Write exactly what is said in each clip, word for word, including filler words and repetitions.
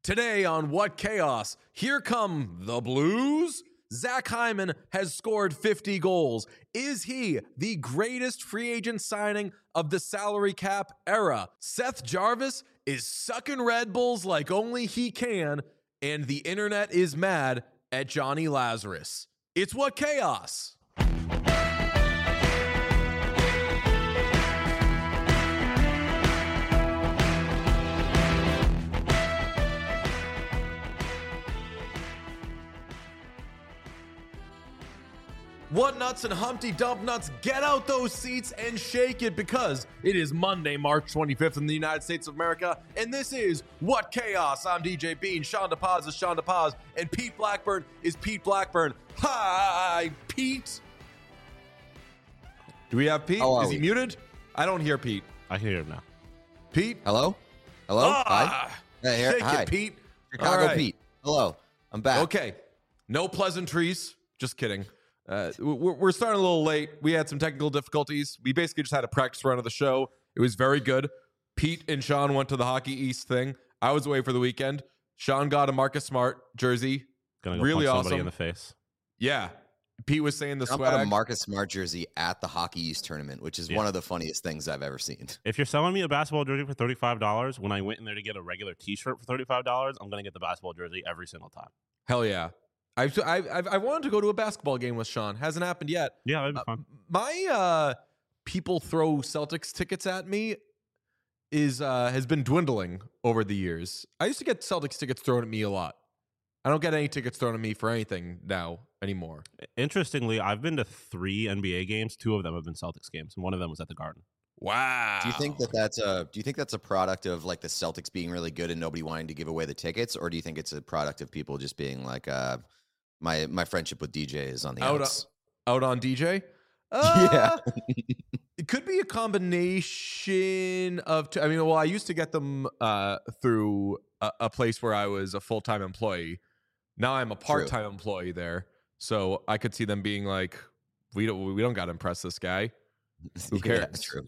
Today on What Chaos, here come the Blues. Zach Hyman has scored fifty goals. Is he the greatest free agent signing of the salary cap era? Seth Jarvis is sucking Red Bulls like only he can, and the internet is mad at Johnny Lazarus. It's What Chaos. What nuts and Humpty Dump nuts, get out those seats and shake it, because it is Monday, March twenty-fifth in the United States of America, and this is What Chaos. I'm D J Bean, Sean DePaz is Sean DePaz, and Pete Blackburn is Pete Blackburn. Hi, Pete. Do we have Pete? Is he we? muted? I don't hear Pete. I hear him now. Pete? Hello? Hello? Ah, Hi. Hey, here. Shake Hi. it, Pete. Chicago right. Pete. Hello. I'm back. Okay. No pleasantries. Just kidding. Uh, we're, we're starting a little late. We had some technical difficulties. We basically just had a practice run of the show. It was very good. Pete and Sean went to the Hockey East thing. I was away for the weekend. Sean got a Marcus Smart jersey. Gonna go really punch awesome. somebody in the face. Yeah. Pete was saying the I swag. got a Marcus Smart jersey at the Hockey East tournament, which is Yeah. one of the funniest things I've ever seen. If you're selling me a basketball jersey for thirty-five dollars, when I went in there to get a regular T-shirt for thirty-five dollars, I'm going to get the basketball jersey every single time. Hell yeah. I've, I've, I've, I wanted to go to a basketball game with Sean. Hasn't happened yet. Yeah, that'd be Uh, fun. my uh, people throw Celtics tickets at me is uh, has been dwindling over the years. I used to get Celtics tickets thrown at me a lot. I don't get any tickets thrown at me for anything now anymore. Interestingly, I've been to three N B A games. Two of them have been Celtics games, and one of them was at the Garden. Wow. Do you think that that's a do you think that's a product of like the Celtics being really good and nobody wanting to give away the tickets, or do you think it's a product of people just being like uh my my friendship with D J is on the Out outs? out on D J? Uh, Yeah. It could be a combination of t- I mean, well, I used to get them uh, through a, a place where I was a full-time employee. Now I'm a part-time employee there, so I could see them being like, we don't we don't got to impress this guy. Who cares? Yeah, true.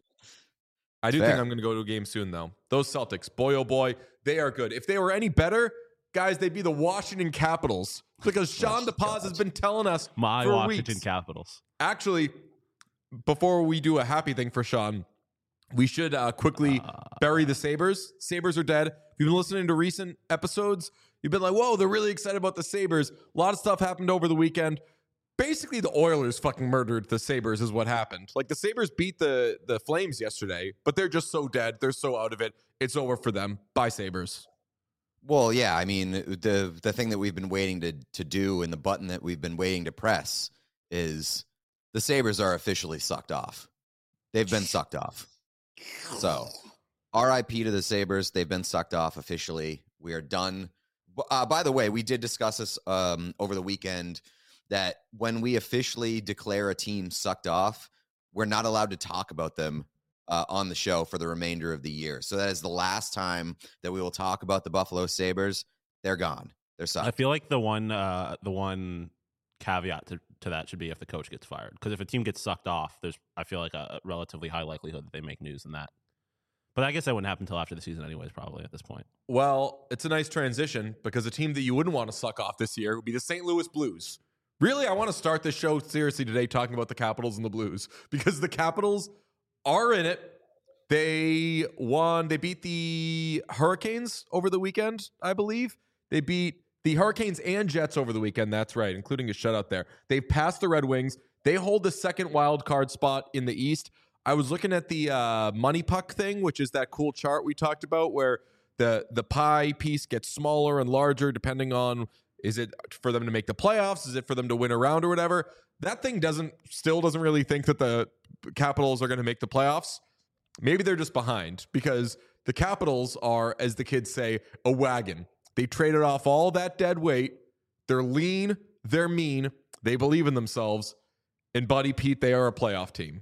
I do Fair. think I'm going to go to a game soon, though. Those Celtics, boy, oh boy, they are good. If they were any better, guys, they'd be the Washington Capitals, because Sean Oh, DePaz has been telling us My for Washington weeks. Capitals. Actually, before we do a happy thing for Sean, we should uh, quickly bury the Sabres. Sabres are dead. If you've been listening to recent episodes, you've been like, whoa, they're really excited about the Sabres. A lot of stuff happened over the weekend. Basically, the Oilers fucking murdered the Sabres is what happened. Like, the Sabres beat the, the Flames yesterday, but they're just so dead. They're so out of it. It's over for them. Bye, Sabres. Well, yeah, I mean, the the thing that we've been waiting to to do and the button that we've been waiting to press is the Sabres are officially sucked off. They've been sucked off. So, R I P to the Sabres. They've been sucked off officially. We are done. Uh, by the way, we did discuss this um, over the weekend, that when we officially declare a team sucked off, we're not allowed to talk about them uh, on the show for the remainder of the year. So that is the last time that we will talk about the Buffalo Sabres. They're gone. They're sucked. I feel like the one uh, the one caveat to, to that should be if the coach gets fired. Because if a team gets sucked off, there's I feel like a relatively high likelihood that they make news in that. But I guess that wouldn't happen until after the season anyways, probably at this point. Well, it's a nice transition, because a team that you wouldn't want to suck off this year would be the Saint Louis Blues. Really, I want to start this show seriously today talking about the Capitals and the Blues, because the Capitals are in it. They won. They beat the Hurricanes over the weekend, I believe. They beat the Hurricanes and Jets over the weekend. That's right, including a shutout there. They've passed the Red Wings. They hold the second wild card spot in the East. I was looking at the uh, Money Puck thing, which is that cool chart we talked about where the, the pie piece gets smaller and larger depending on, is it for them to make the playoffs? Is it for them to win a round or whatever? That thing doesn't still doesn't really think that the Capitals are going to make the playoffs. Maybe they're just behind, because the Capitals are, as the kids say, a wagon. They traded off all that dead weight. They're lean. They're mean. They believe in themselves. And Buddy Pete, they are a playoff team.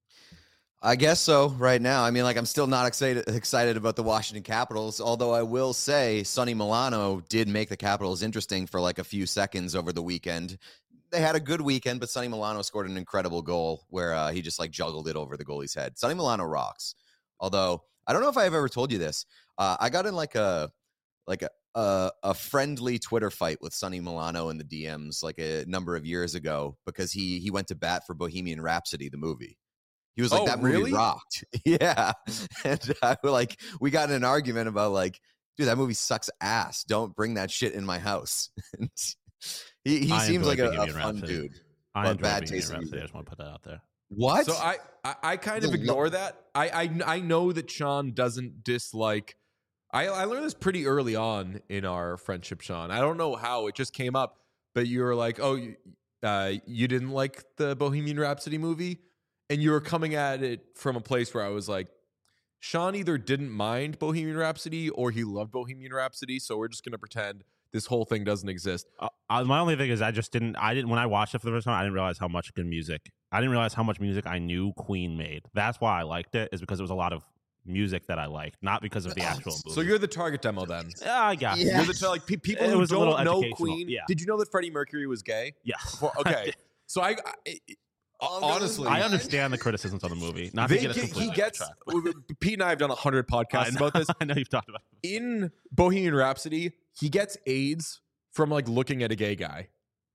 I guess so right now. I mean, like, I'm still not excited excited about the Washington Capitals, although I will say Sonny Milano did make the Capitals interesting for like a few seconds over the weekend. They had a good weekend, but Sonny Milano scored an incredible goal where uh, he just like juggled it over the goalie's head. Sonny Milano rocks. Although I don't know if I've ever told you this. Uh, I got in like a like a a, a friendly Twitter fight with Sonny Milano in the D Ms like a number of years ago because he he went to bat for Bohemian Rhapsody, the movie. He was like, Oh, that movie really? rocked. Yeah. And I like, we got in an argument about like, dude, that movie sucks ass. Don't bring that shit in my house. And he he I seems enjoy like a, a Bohemian fun Rhapsody. dude. I but enjoy bad Bohemian taste in Rhapsody. I music. just want to put that out there. What? So I, I, I kind of The ignore lo- that. I, I, I know that Sean doesn't dislike. I, I learned this pretty early on in our friendship, Sean. I don't know how it just came up, but you were like, "Oh, you, uh, you didn't like the Bohemian Rhapsody movie," and you were coming at it from a place where I was like, Sean either didn't mind Bohemian Rhapsody or he loved Bohemian Rhapsody, so we're just gonna pretend this whole thing doesn't exist. Uh, uh, my only thing is I just didn't I didn't when I watched it for the first time I didn't realize how much good music I didn't realize how much music I knew Queen made. That's why I liked it, is because it was a lot of music that I liked, not because of the actual movie. So you're the target demo then. yeah, I got Yeah. You're the like pe- people It who was a little don't know educational, Queen. yeah. Did you know that Freddie Mercury was gay? yeah. Before- okay, so I, I honestly, I understand the criticisms of the movie. Not to they get us get, he completely gets. off track, Pete and I have done a hundred but- I podcasts know, about this. I know you've talked about it. In Bohemian Rhapsody, he gets AIDS from like looking at a gay guy.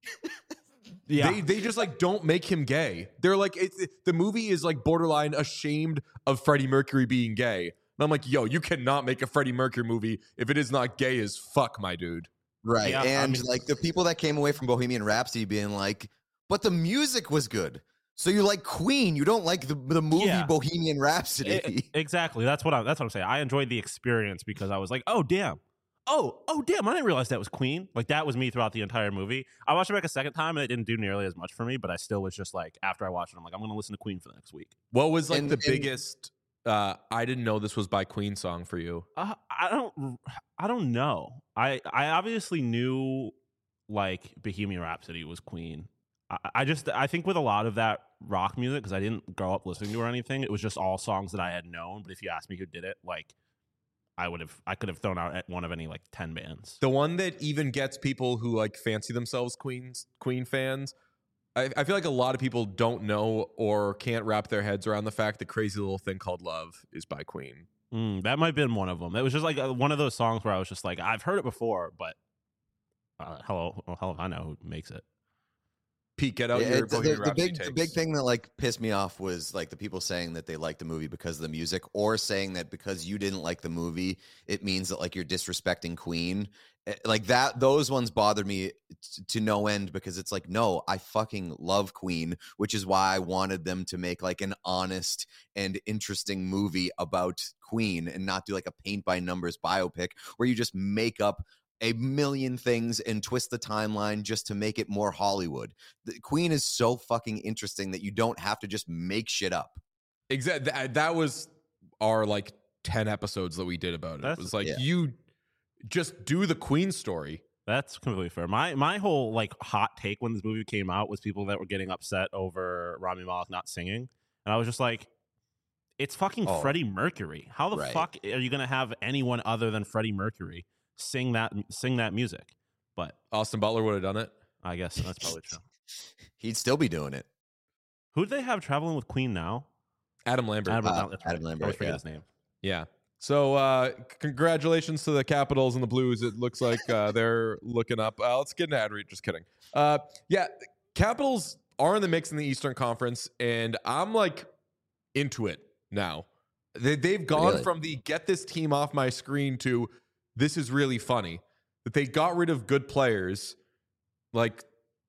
Yeah. They they just like don't make him gay. They're like it's it, the movie is like borderline ashamed of Freddie Mercury being gay. And I'm like, yo, you cannot make a Freddie Mercury movie if it is not gay as fuck, my dude. Right. Yeah, I and mean- like the people that came away from Bohemian Rhapsody being like, but the music was good. So you like Queen, you don't like the, the movie Yeah. Bohemian Rhapsody. E- exactly. That's what I that's what I'm saying. I enjoyed the experience because I was like, oh damn. Oh, oh damn, I didn't realize that was Queen. Like that was me throughout the entire movie. I watched it back a second time and it didn't do nearly as much for me, but I still was just like, after I watched it, I'm like, I'm gonna listen to Queen for the next week. What was like And- the and- biggest uh I didn't know this was by Queen song for you? Uh, I don't I don't know. I I obviously knew like Bohemian Rhapsody was Queen. I, I just I think with a lot of that rock music, because I didn't grow up listening to it or anything, it was just all songs that I had known. But if you asked me who did it, like I would have I could have thrown out at one of any like ten bands. The one that even gets people who like fancy themselves Queen's Queen fans. I, I feel like a lot of people don't know or can't wrap their heads around the fact that Crazy Little Thing Called Love is by Queen. Mm, that might have been one of them. It was just like uh, one of those songs where I was just like, I've heard it before, but uh, hello, well, hell if I know who makes it. Pete, get out Yeah, your it's- the, Bohemian the Rhapsody big the takes. big thing that like pissed me off was like the people saying that they liked the movie because of the music, or saying that because you didn't like the movie, it means that like you're disrespecting Queen. Eh, Like that, those ones bothered me t- to no end because it's like, no, I fucking love Queen, which is why I wanted them to make like an honest and interesting movie about Queen and not do like a paint by numbers biopic where you just make up a million things and twist the timeline just to make it more Hollywood. The Queen is so fucking interesting that you don't have to just make shit up. Exactly. That, that was our like ten episodes that we did about it. That's- it was like yeah. you just do the Queen story. That's completely fair. My my whole like hot take when this movie came out was people that were getting upset over Rami Malek not singing, and I was just like, it's fucking Oh. Freddie Mercury. How the Right. fuck are you gonna have anyone other than Freddie Mercury sing that sing that music? But Austin Butler would have done it. I guess that's probably true. He'd still be doing it. Who do they have traveling with Queen now? Adam Lambert. Adam, Uh, no, that's Adam right. I Lambert, always forget yeah. his name. Yeah. So uh congratulations to the Capitals and the Blues. It looks like uh, they're looking up. Uh, let's get an ad read. Just kidding. Uh yeah, Capitals are in the mix in the Eastern Conference, and I'm like into it now. They they've gone Really? from the get this team off my screen to this is really funny. That they got rid of good players like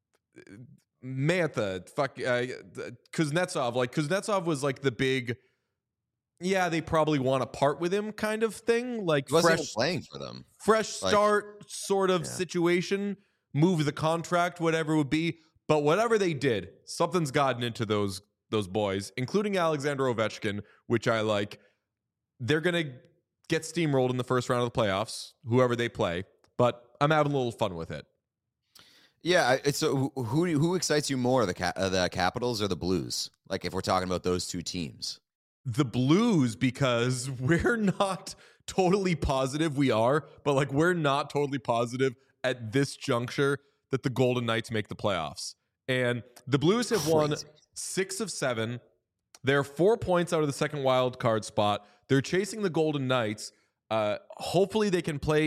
Mantha, fuck uh, Kuznetsov. Like Kuznetsov was like the big yeah, they probably want to part with him kind of thing. Like He wasn't fresh even playing for them. fresh Like- start sort of Yeah. situation, move the contract, whatever it would be. But whatever they did, something's gotten into those those boys, including Alexander Ovechkin, which I like. They're gonna get steamrolled in the first round of the playoffs, whoever they play. But I'm having a little fun with it. Yeah, I- it's so who who who excites you more, the Ca- uh, the Capitals or the Blues? Like if we're talking about those two teams. The Blues, because we're not totally positive we are, but like we're not totally positive at this juncture that the Golden Knights make the playoffs. And the Blues have won Crazy. six of seven. They're four points out of the second wild card spot. They're chasing the Golden Knights. Uh, hopefully they can play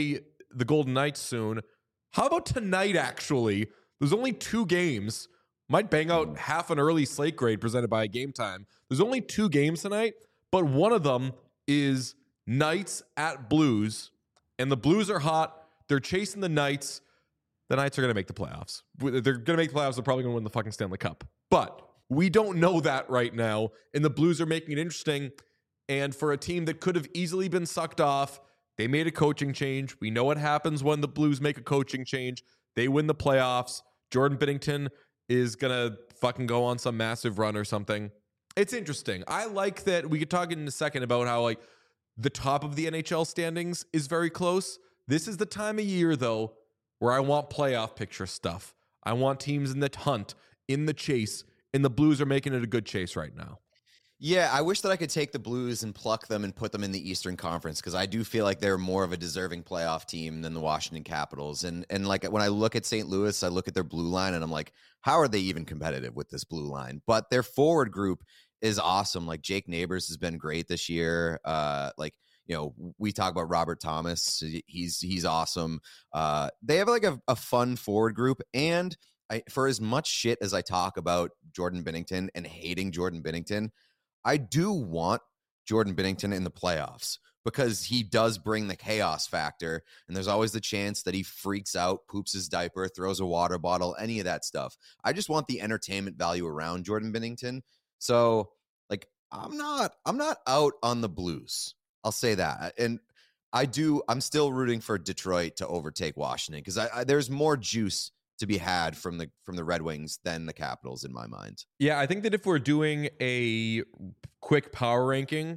the Golden Knights soon. How about tonight, actually? There's only two games. Might bang out half an early slate grade presented by Game Time. There's only two games tonight, but one of them is Knights at Blues, and the Blues are hot. They're chasing the Knights. The Knights are going to make the playoffs. They're going to make the playoffs. They're probably going to win the fucking Stanley Cup. But we don't know that right now, and the Blues are making it interesting. And for a team that could have easily been sucked off, they made a coaching change. We know what happens when the Blues make a coaching change. They win the playoffs. Jordan Binnington is going to fucking go on some massive run or something. It's interesting. I like that. We could talk in a second about how like the top of the N H L standings is very close. This is the time of year, though, where I want playoff picture stuff. I want teams in the hunt, in the chase, and the Blues are making it a good chase right now. Yeah, I wish that I could take the Blues and pluck them and put them in the Eastern Conference, because I do feel like they're more of a deserving playoff team than the Washington Capitals. And and like when I look at Saint Louis, I look at their blue line and I'm like, how are they even competitive with this blue line? But their forward group is awesome. Like Jake Neighbors has been great this year. Uh, like, you know, we talk about Robert Thomas. He's he's awesome. Uh, they have like a, a fun forward group. And I, for as much shit as I talk about Jordan Binnington and hating Jordan Binnington, I do want Jordan Binnington in the playoffs because he does bring the chaos factor. And there's always the chance that he freaks out, poops his diaper, throws a water bottle, any of that stuff. I just want the entertainment value around Jordan Binnington. So like, I'm not, I'm not out on the Blues. I'll say that. And I do, I'm still rooting for Detroit to overtake Washington because I, I, there's more juice to be had from the from the Red Wings than the Capitals in my mind. Yeah, I think that if we're doing a quick power ranking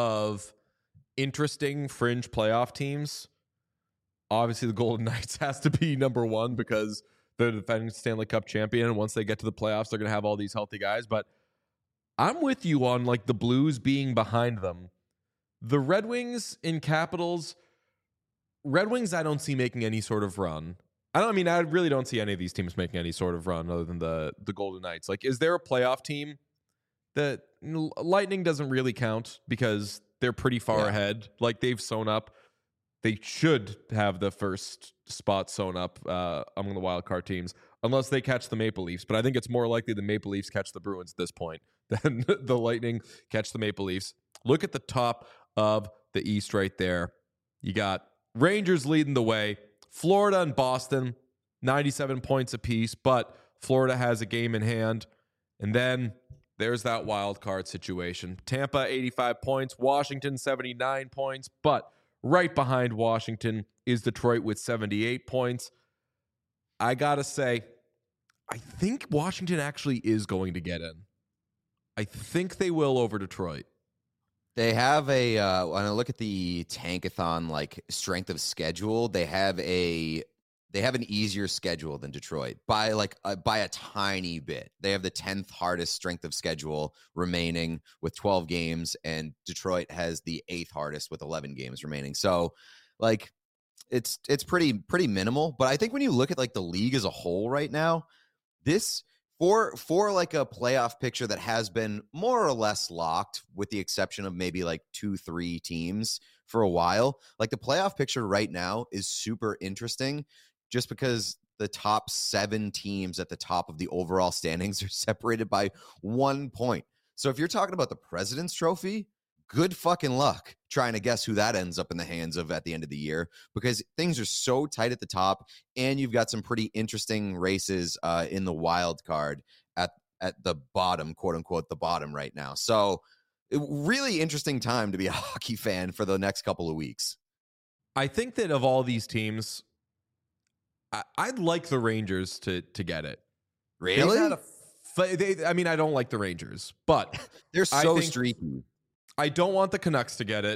of interesting fringe playoff teams, obviously the Golden Knights has to be number one because they're the defending Stanley Cup champion, and once they get to the playoffs, they're going to have all these healthy guys. But I'm with you on like the Blues being behind them. The Red Wings and Capitals, Red Wings I don't see making any sort of run. I don't I mean I really don't see any of these teams making any sort of run other than the the Golden Knights. Like, is there a playoff team that Lightning doesn't really count because they're pretty far yeah. ahead? Like, they've sewn up. They should have the first spot sewn up uh, among the wild card teams unless they catch the Maple Leafs. But I think it's more likely the Maple Leafs catch the Bruins at this point than the Lightning catch the Maple Leafs. Look at the top of the East right there. You got Rangers leading the way. Florida and Boston, ninety-seven points apiece, but Florida has a game in hand. And then there's that wild card situation. Tampa, eighty-five points. Washington, seventy-nine points. But right behind Washington is Detroit with seventy-eight points. I got to say, I think Washington actually is going to get in. I think they will over Detroit. They have a, uh, when I look at the Tankathon, like strength of schedule, they have a, they have an easier schedule than Detroit by like, uh, by a tiny bit. They have the tenth hardest strength of schedule remaining with twelve games, and Detroit has the eighth hardest with eleven games remaining. So like, it's, it's pretty, pretty minimal. But I think when you look at like the league as a whole right now, this, For for like a playoff picture that has been more or less locked, with the exception of maybe like two, three teams for a while, like the playoff picture right now is super interesting just because the top seven teams at the top of the overall standings are separated by one point. So if you're talking about the President's Trophy, good fucking luck trying to guess who that ends up in the hands of at the end of the year, because things are so tight at the top, and you've got some pretty interesting races uh, in the wild card at at the bottom, quote unquote, the bottom right now. So it, really interesting time to be a hockey fan for the next couple of weeks. I think that of all these teams, I, I'd like the Rangers to to get it. Really? A, they, I mean, I don't like the Rangers, but they're so think, streaky. I don't want the Canucks to get it.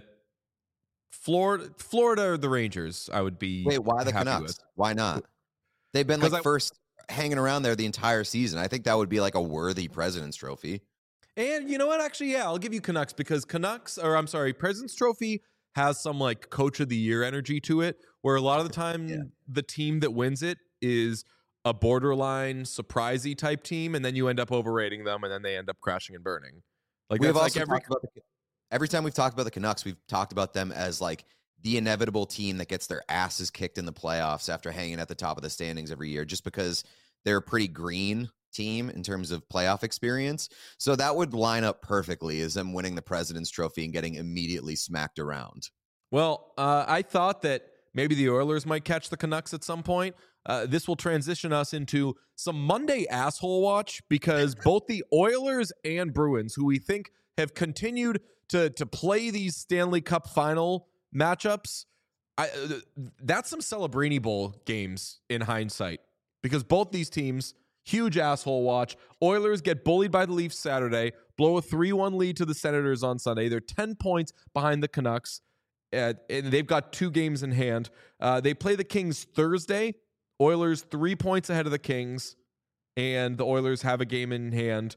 Florida, Florida or the Rangers, I would be. Wait, why the happy Canucks? with. Why not? They've been like I, first hanging around there the entire season. I think that would be like a worthy President's Trophy. And you know what? Actually, yeah, I'll give you Canucks because Canucks, or I'm sorry, President's Trophy has some like Coach of the Year energy to it, where a lot of the time yeah. the team that wins it is a borderline surprisey type team, and then you end up overrating them, and then they end up crashing and burning. Like we've that's also like every. Talked about the, every time we've talked about the Canucks, we've talked about them as like the inevitable team that gets their asses kicked in the playoffs after hanging at the top of the standings every year, just because they're a pretty green team in terms of playoff experience. So that would line up perfectly as them winning the President's Trophy and getting immediately smacked around. Well, uh, I thought that maybe the Oilers might catch the Canucks at some point. Uh, this will transition us into some Monday asshole watch, because both the Oilers and Bruins, who we think have continued to to play these Stanley Cup final matchups, I, uh, that's some Celebrini Bowl games in hindsight, because both these teams, huge asshole watch. Oilers get bullied by the Leafs Saturday, blow a three one lead to the Senators on Sunday. They're ten points behind the Canucks, uh, and they've got two games in hand. Uh, they play the Kings Thursday. Oilers three points ahead of the Kings, and the Oilers have a game in hand.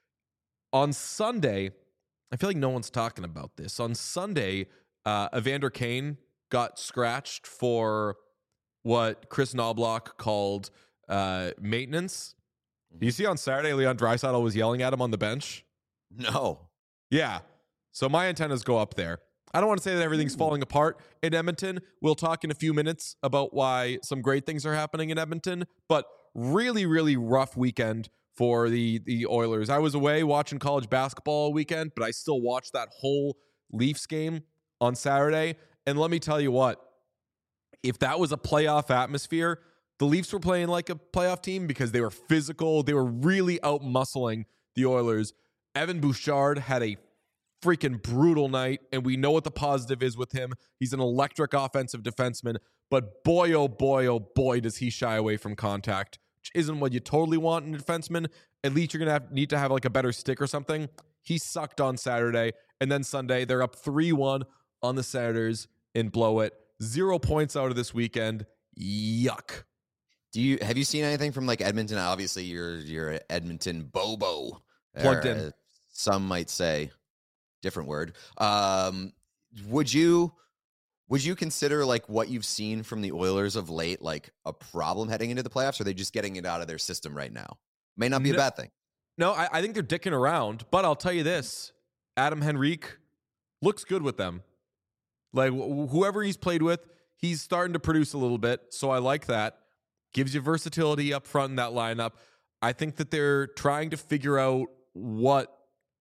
On Sunday, I feel like no one's talking about this. On Sunday, uh, Evander Kane got scratched for what Chris Knobloch called uh, maintenance. Do you see on Saturday, Leon Draisaitl was yelling at him on the bench? No. Yeah. So my antennas go up there. I don't want to say that everything's falling apart in Edmonton. We'll talk in a few minutes about why some great things are happening in Edmonton, but really, really rough weekend for the, the Oilers. I was away watching college basketball all weekend, but I still watched that whole Leafs game on Saturday. And let me tell you what, if that was a playoff atmosphere, the Leafs were playing like a playoff team because they were physical. They were really out-muscling the Oilers. Evan Bouchard had a freaking brutal night, and we know what the positive is with him. He's an electric offensive defenseman, but boy, oh boy, oh boy, does he shy away from contact, which isn't what you totally want in a defenseman. At least you're going to have need to have like a better stick or something. He sucked on Saturday, and then Sunday, they're up three one on the Senators and blow it. Zero points out of this weekend. Yuck. Do you have you seen anything from like Edmonton? Obviously, you're you're an Edmonton Bobo. Plugged or, in. uh, some might say. Different word. Um, would you would you consider like what you've seen from the Oilers of late like a problem heading into the playoffs? Or are they just getting it out of their system right now? May not be no, a bad thing. No, I, I think they're dicking around. But I'll tell you this: Adam Henrique looks good with them. Like wh- whoever he's played with, he's starting to produce a little bit. So I like that. Gives you versatility up front in that lineup. I think that they're trying to figure out what.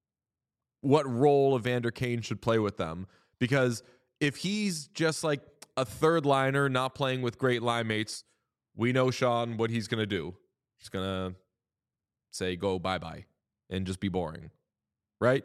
what role Evander Kane should play with them. Because if he's just like a third liner, not playing with great line mates, we know, Sean, what he's going to do. He's going to say, go bye-bye and just be boring. Right?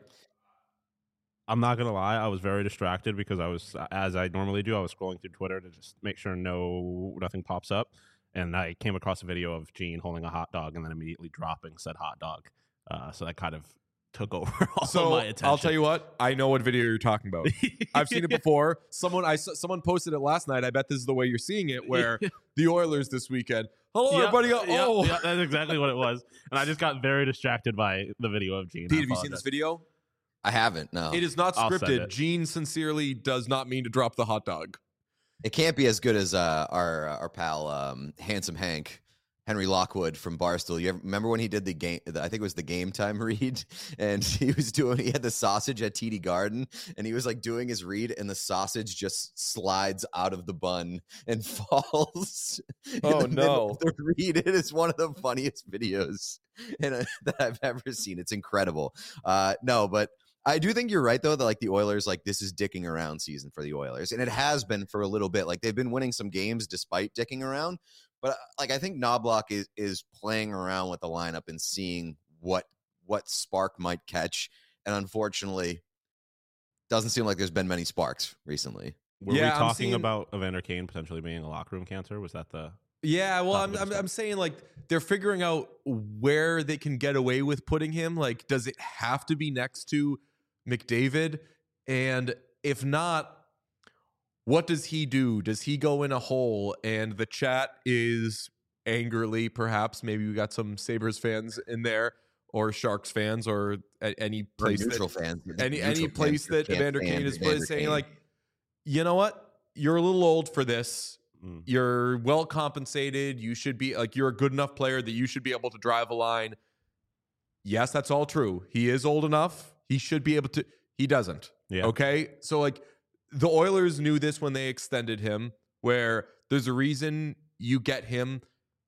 I'm not going to lie. I was very distracted because I was, as I normally do, I was scrolling through Twitter to just make sure no nothing pops up. And I came across a video of Gene holding a hot dog and then immediately dropping said hot dog. Uh, so that kind of took over all so of my attention. I'll tell you what, I know what video you're talking about. I've seen it before. Someone I someone posted it last night. I bet this is the way you're seeing it, where the Oilers this weekend. Hello, yeah, everybody. yeah, Oh, yeah, that's exactly what it was. And I just got very distracted by the video of Gene. Pete, have you seen this video? I haven't. No, It is not I'll send scripted. it. Gene sincerely does not mean to drop the hot dog. it can't be as good as uh, our our pal um, Handsome Hank. Henry Lockwood from Barstool. You ever, remember when he did the game? I think it was the Game Time read, and he was doing. He had the sausage at T D Garden, and he was like doing his read, and the sausage just slides out of the bun and falls. in Oh, the middle no. of the read. It is one of the funniest videos in a, that I've ever seen. It's incredible. Uh, no, but I do think you're right though that like the Oilers, like this is dicking around season for the Oilers, and it has been for a little bit. Like they've been winning some games despite dicking around. But like I think Knobloch is is playing around with the lineup and seeing what what spark might catch, and unfortunately, doesn't seem like there's been many sparks recently. Were Yeah, we I'm talking seeing- about Evander Kane potentially being a locker room cancer? Was that the? Yeah, well, I'm, Talk I'm about I'm saying like they're figuring out where they can get away with putting him. Like, does it have to be next to McDavid? And if not, what does he do? Does he go in a hole? And the chat is angrily, perhaps, maybe we got some Sabres fans in there, or Sharks fans, or at any Or place that, neutral fans, any neutral any place fans that can't Evander stand Kane is Evander saying Kane. like, you know what? You're a little old for this. Mm. You're well compensated. You should be like, you're a good enough player that you should be able to drive a line. Yes, that's all true. He is old enough. He should be able to. He doesn't. Yeah. Okay. So like, the Oilers knew this when they extended him, where there's a reason you get him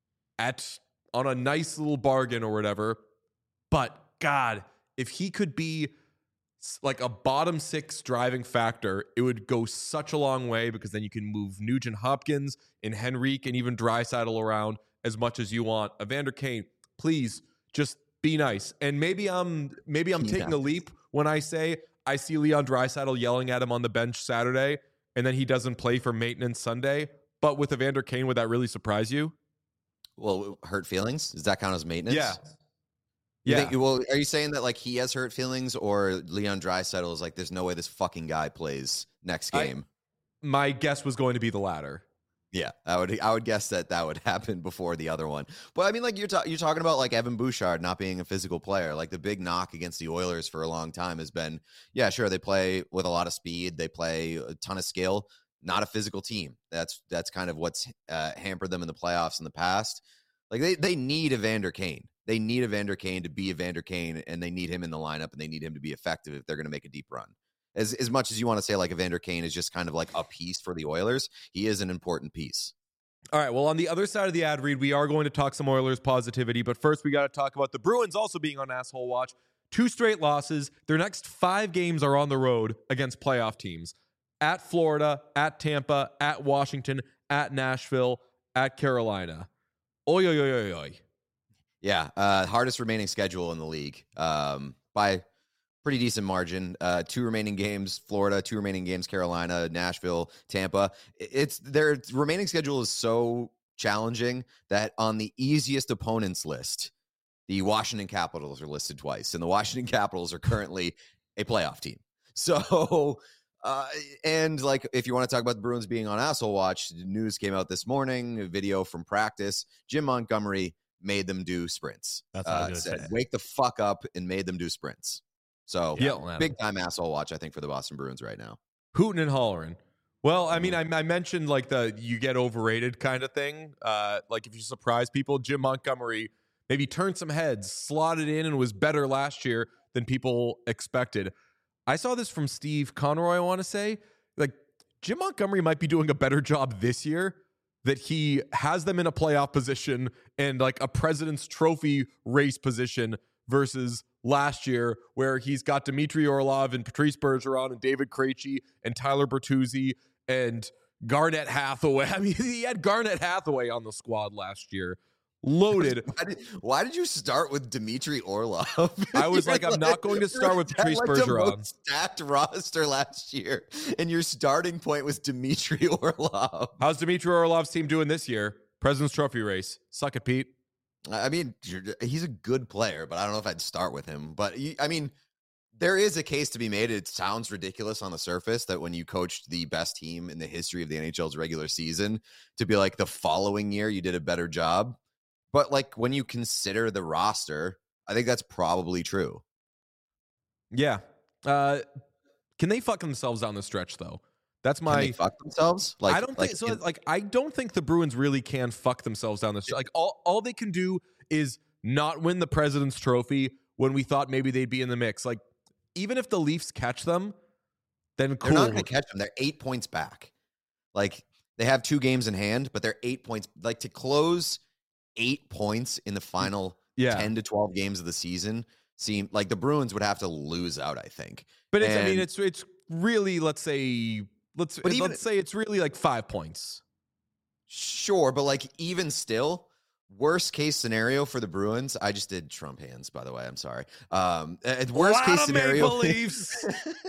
at on a nice little bargain or whatever. But God, if he could be like a bottom six driving factor, it would go such a long way, because then you can move Nugent Hopkins and Henrique and even Draisaitl around as much as you want. Evander Kane, please just be nice. And maybe I'm maybe I'm Be taking a nice. leap when I say I see Leon Draisaitl yelling at him on the bench Saturday, and then he doesn't play for maintenance Sunday. But with Evander Kane, would that really surprise you? Well, hurt feelings? Does that count as maintenance? Yeah. You Yeah. think- well, are you saying that like he has hurt feelings, or Leon Draisaitl is like, there's no way this fucking guy plays next I- game? My guess was going to be the latter. Yeah, I would I would guess that that would happen before the other one. But I mean, like you're ta- you're talking about like Evan Bouchard not being a physical player. Like the big knock against the Oilers for a long time has been, yeah, sure, they play with a lot of speed, they play a ton of skill, not a physical team. That's that's kind of what's uh, hampered them in the playoffs in the past. Like they they need Evander Kane. They need Evander Kane to be Evander Kane, and they need him in the lineup, and they need him to be effective if they're going to make a deep run. As as much as you want to say like Evander Kane is just kind of like a piece for the Oilers, he is an important piece. All right. Well, on the other side of the ad read, we are going to talk some Oilers positivity, but first we got to talk about the Bruins also being on asshole watch. Two straight losses. Their next five games are on the road against playoff teams: at Florida, at Tampa, at Washington, at Nashville, at Carolina. Oy, oy, oy, oy, oy. Yeah, uh, hardest remaining schedule in the league um, by pretty decent margin. Uh, two remaining games, Florida. Two remaining games, Carolina, Nashville, Tampa. It's their remaining schedule is so challenging that on the easiest opponents list, the Washington Capitals are listed twice, and the Washington Capitals are currently a playoff team. So, uh, and like, if you want to talk about the Bruins being on asshole watch, the news came out this morning, a video from practice. Jim Montgomery made them do sprints. That's what I was uh, gonna said, say. wake the fuck up, and made them do sprints. So, Yelling at 'em. big time asshole watch, I think, for the Boston Bruins right now. Hooting and hollering. Well, I mean, I, I mentioned like the you get overrated kind of thing. Uh, like if you surprise people, Jim Montgomery maybe turned some heads, slotted in, and was better last year than people expected. I saw this from Steve Conroy, I want to say. Like Jim Montgomery might be doing a better job this year, that he has them in a playoff position and like a President's Trophy race position versus last year, where he's got Dmitry Orlov and Patrice Bergeron and David Krejci and Tyler Bertuzzi and Garnett Hathaway. I mean, he had Garnett Hathaway on the squad last year, loaded. Why did, why did you start with Dmitry Orlov? I was You're like, I'm not going to start with had, Patrice like, the Bergeron. most stacked roster last year, and your starting point was Dmitry Orlov. How's Dmitry Orlov's team doing this year? President's Trophy race. Suck it, Pete. I mean, you're- he's a good player, but I don't know if I'd start with him. But he, I mean, there is a case to be made. It sounds ridiculous on the surface that when you coached the best team in the history of the N H L's regular season, to be like the following year you did a better job. But like when you consider the roster, I think that's probably true. Yeah. Uh, can they fuck themselves down the stretch though? That's Can my. they fuck themselves? Like I don't like, think so. in- Like, I don't think the Bruins really can fuck themselves down the stretch. Like, all all they can do is not win the President's Trophy when we thought maybe they'd be in the mix. Like, even if the Leafs catch them, then They're cool. not going to catch them. They're eight points back. Like they have two games in hand, but they're eight points. Like to close eight points in the final yeah, ten to twelve games of the season seem like the Bruins would have to lose out, I think. but it's. I mean, and- it's it's really. Let's say. Let's But even- let's say it's really like five points. Sure, but like even still, worst case scenario for the Bruins. I just did Trump hands, by the way. I'm sorry. Um, uh, worst Lot case of scenario. Maple Leafs.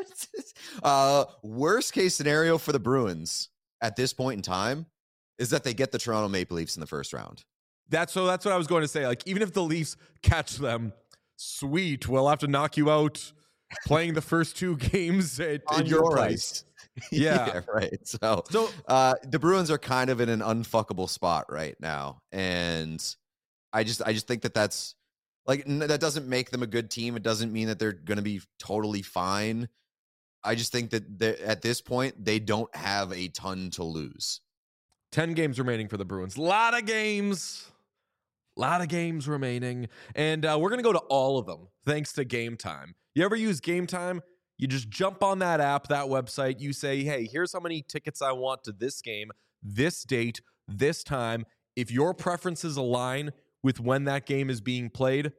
uh, worst case scenario for the Bruins at this point in time is that they get the Toronto Maple Leafs in the first round. That's so. That's what I was going to say. Like, even if the Leafs catch them, sweet. We'll have to knock you out playing the first two games at, On at your your place. ice. Yeah. right. So, So uh, the Bruins are kind of in an unfuckable spot right now, and I just, I just think that that's like n- that doesn't make them a good team. It doesn't mean that they're going to be totally fine. I just think that they- at this point they don't have a ton to lose. ten games remaining for the Bruins. Lot of games. Lot of games remaining. And uh, we're going to go to all of them thanks to Game Time. You ever use Game Time? You just jump on that app, that website. You say, hey, here's how many tickets I want to this game, this date, this time. If your preferences align with when that game is being played,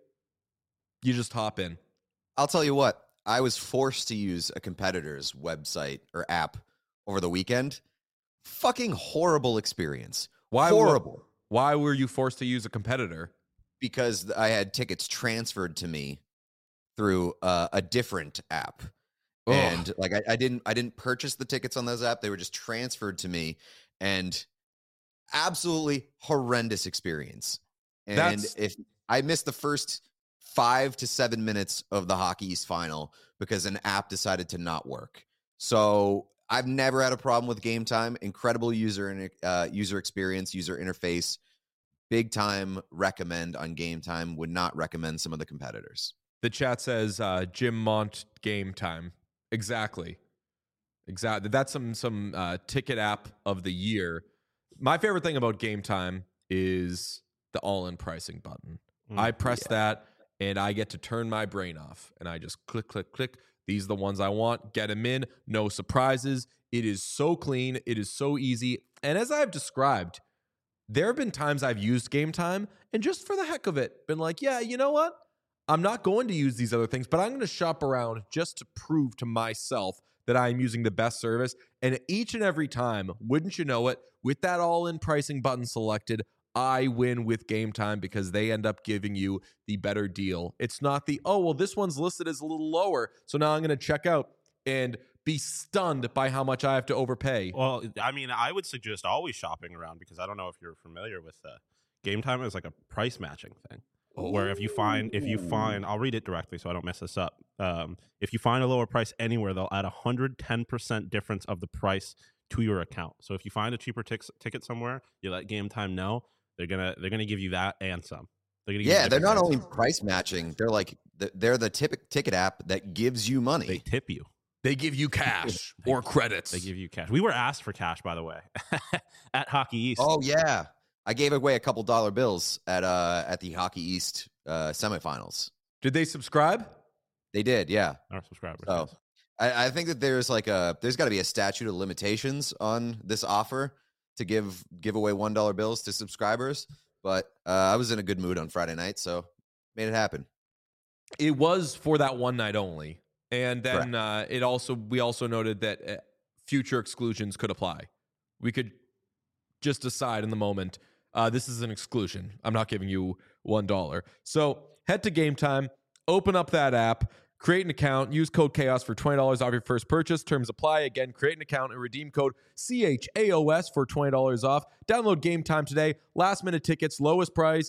you just hop in. I'll tell you what, I was forced to use a competitor's website or app over the weekend. Fucking horrible experience. Why horrible. Why were you forced to use a competitor? Because I had tickets transferred to me through uh, a different app. Ugh. And like I, I didn't I didn't purchase the tickets on those apps. They were just transferred to me, and absolutely horrendous experience. And That's... if I missed the first five to seven minutes of the Hockey East final because an app decided to not work. So I've never had a problem with Game Time. Incredible user uh, user experience, user interface. Big time recommend on Game Time. Would not recommend some of the competitors. The chat says uh, Jim Mont Game Time. Exactly. Exactly. That's some some uh, ticket app of the year. My favorite thing about Game Time is the all-in pricing button. Mm, I press yeah. that, and I get to turn my brain off, and I just click, click, click. These are the ones I want. Get them in. No surprises. It is so clean. It is so easy. And as I've described, there have been times I've used Game Time, and just for the heck of it, been like, yeah, you know what? I'm not going to use these other things, but I'm going to shop around just to prove to myself that I'm using the best service. And each and every time, wouldn't you know it, with that all-in pricing button selected, I win with Game Time because they end up giving you the better deal. It's not the, oh, well, this one's listed as a little lower, so now I'm going to check out and be stunned by how much I have to overpay. Well, I mean, I would suggest always shopping around because I don't know if you're familiar with uh, Game Time is like a price matching thing. Oh. Where if you find, if you find, I'll read it directly so I don't mess this up. Um, if you find a lower price anywhere, they'll add one hundred ten percent difference of the price to your account. So if you find a cheaper t- ticket somewhere, you let Game Time know, they're gonna they're gonna give you that and some. They're gonna give yeah, you they're not price. only price matching; they're like they're the tip- ticket app that gives you money. They tip you. They give you cash or credits. They give you cash. We were asked for cash, by the way, at Hockey East. Oh yeah. I gave away a couple dollar bills at uh at the Hockey East uh, semifinals. Did they subscribe? They did, yeah. Our subscribers. So yes. I, I think that there's like a there's got to be a statute of limitations on this offer to give give away one dollar bills to subscribers. But uh, I was in a good mood on Friday night, so made it happen. It was for that one night only, and then uh, it also we also noted that uh, future exclusions could apply. We could just decide in the moment. Uh, this is an exclusion. I'm not giving you one dollar. So head to Game Time, open up that app, create an account, use code CHAOS for twenty dollars off your first purchase. Terms apply. Again, create an account and redeem code C H A O S for twenty dollars off. Download Game Time today. Last minute tickets, lowest price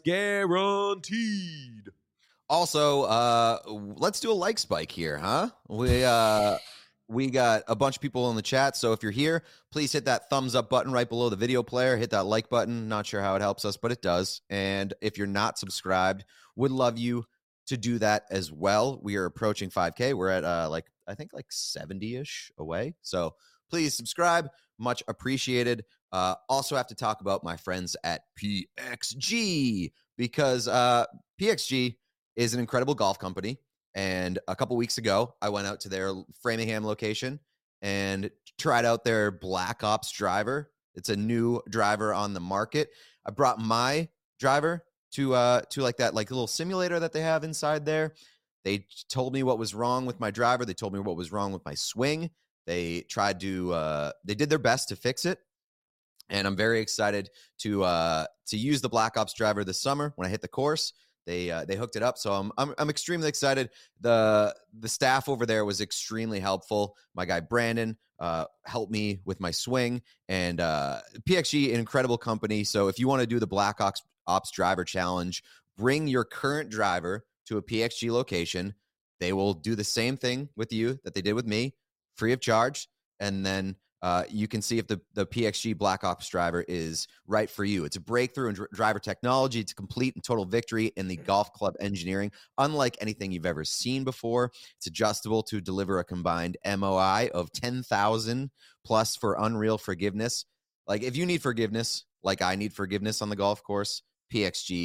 guaranteed. Also, uh, let's do a like spike here, huh? We uh, we got a bunch of people in the chat, so if you're here, please hit that thumbs up button right below the video player. Hit that like button. Not sure how it helps us, but it does. And if you're not subscribed, would love you to do that as well. We are approaching five K. We're at uh, like I think like seventy-ish away. So please subscribe. Much appreciated. Uh, also have to talk about my friends at P X G because uh, P X G is an incredible golf company. And a couple weeks ago, I went out to their Framingham location and tried out their Black Ops driver. It's a new driver on the market. I brought my driver to uh to like that like little simulator that they have inside there. They told me what was wrong with my driver. They told me what was wrong with my swing. They tried to uh they did their best to fix it. And I'm very excited to uh to use the Black Ops driver this summer when I hit the course. They uh, they hooked it up, so I'm I'm I'm extremely excited. the The staff over there was extremely helpful. My guy Brandon uh, helped me with my swing, and uh, P X G, an incredible company. So if you want to do the Black Ops Ops Driver Challenge, bring your current driver to a P X G location. They will do the same thing with you that they did with me, free of charge, and then uh, you can see if the, the P X G Black Ops driver is right for you. It's a breakthrough in dr- driver technology. It's a complete and total victory in the golf club engineering, unlike anything you've ever seen before. It's adjustable to deliver a combined M O I of ten thousand plus for unreal forgiveness. Like if you need forgiveness, like I need forgiveness on the golf course, P X G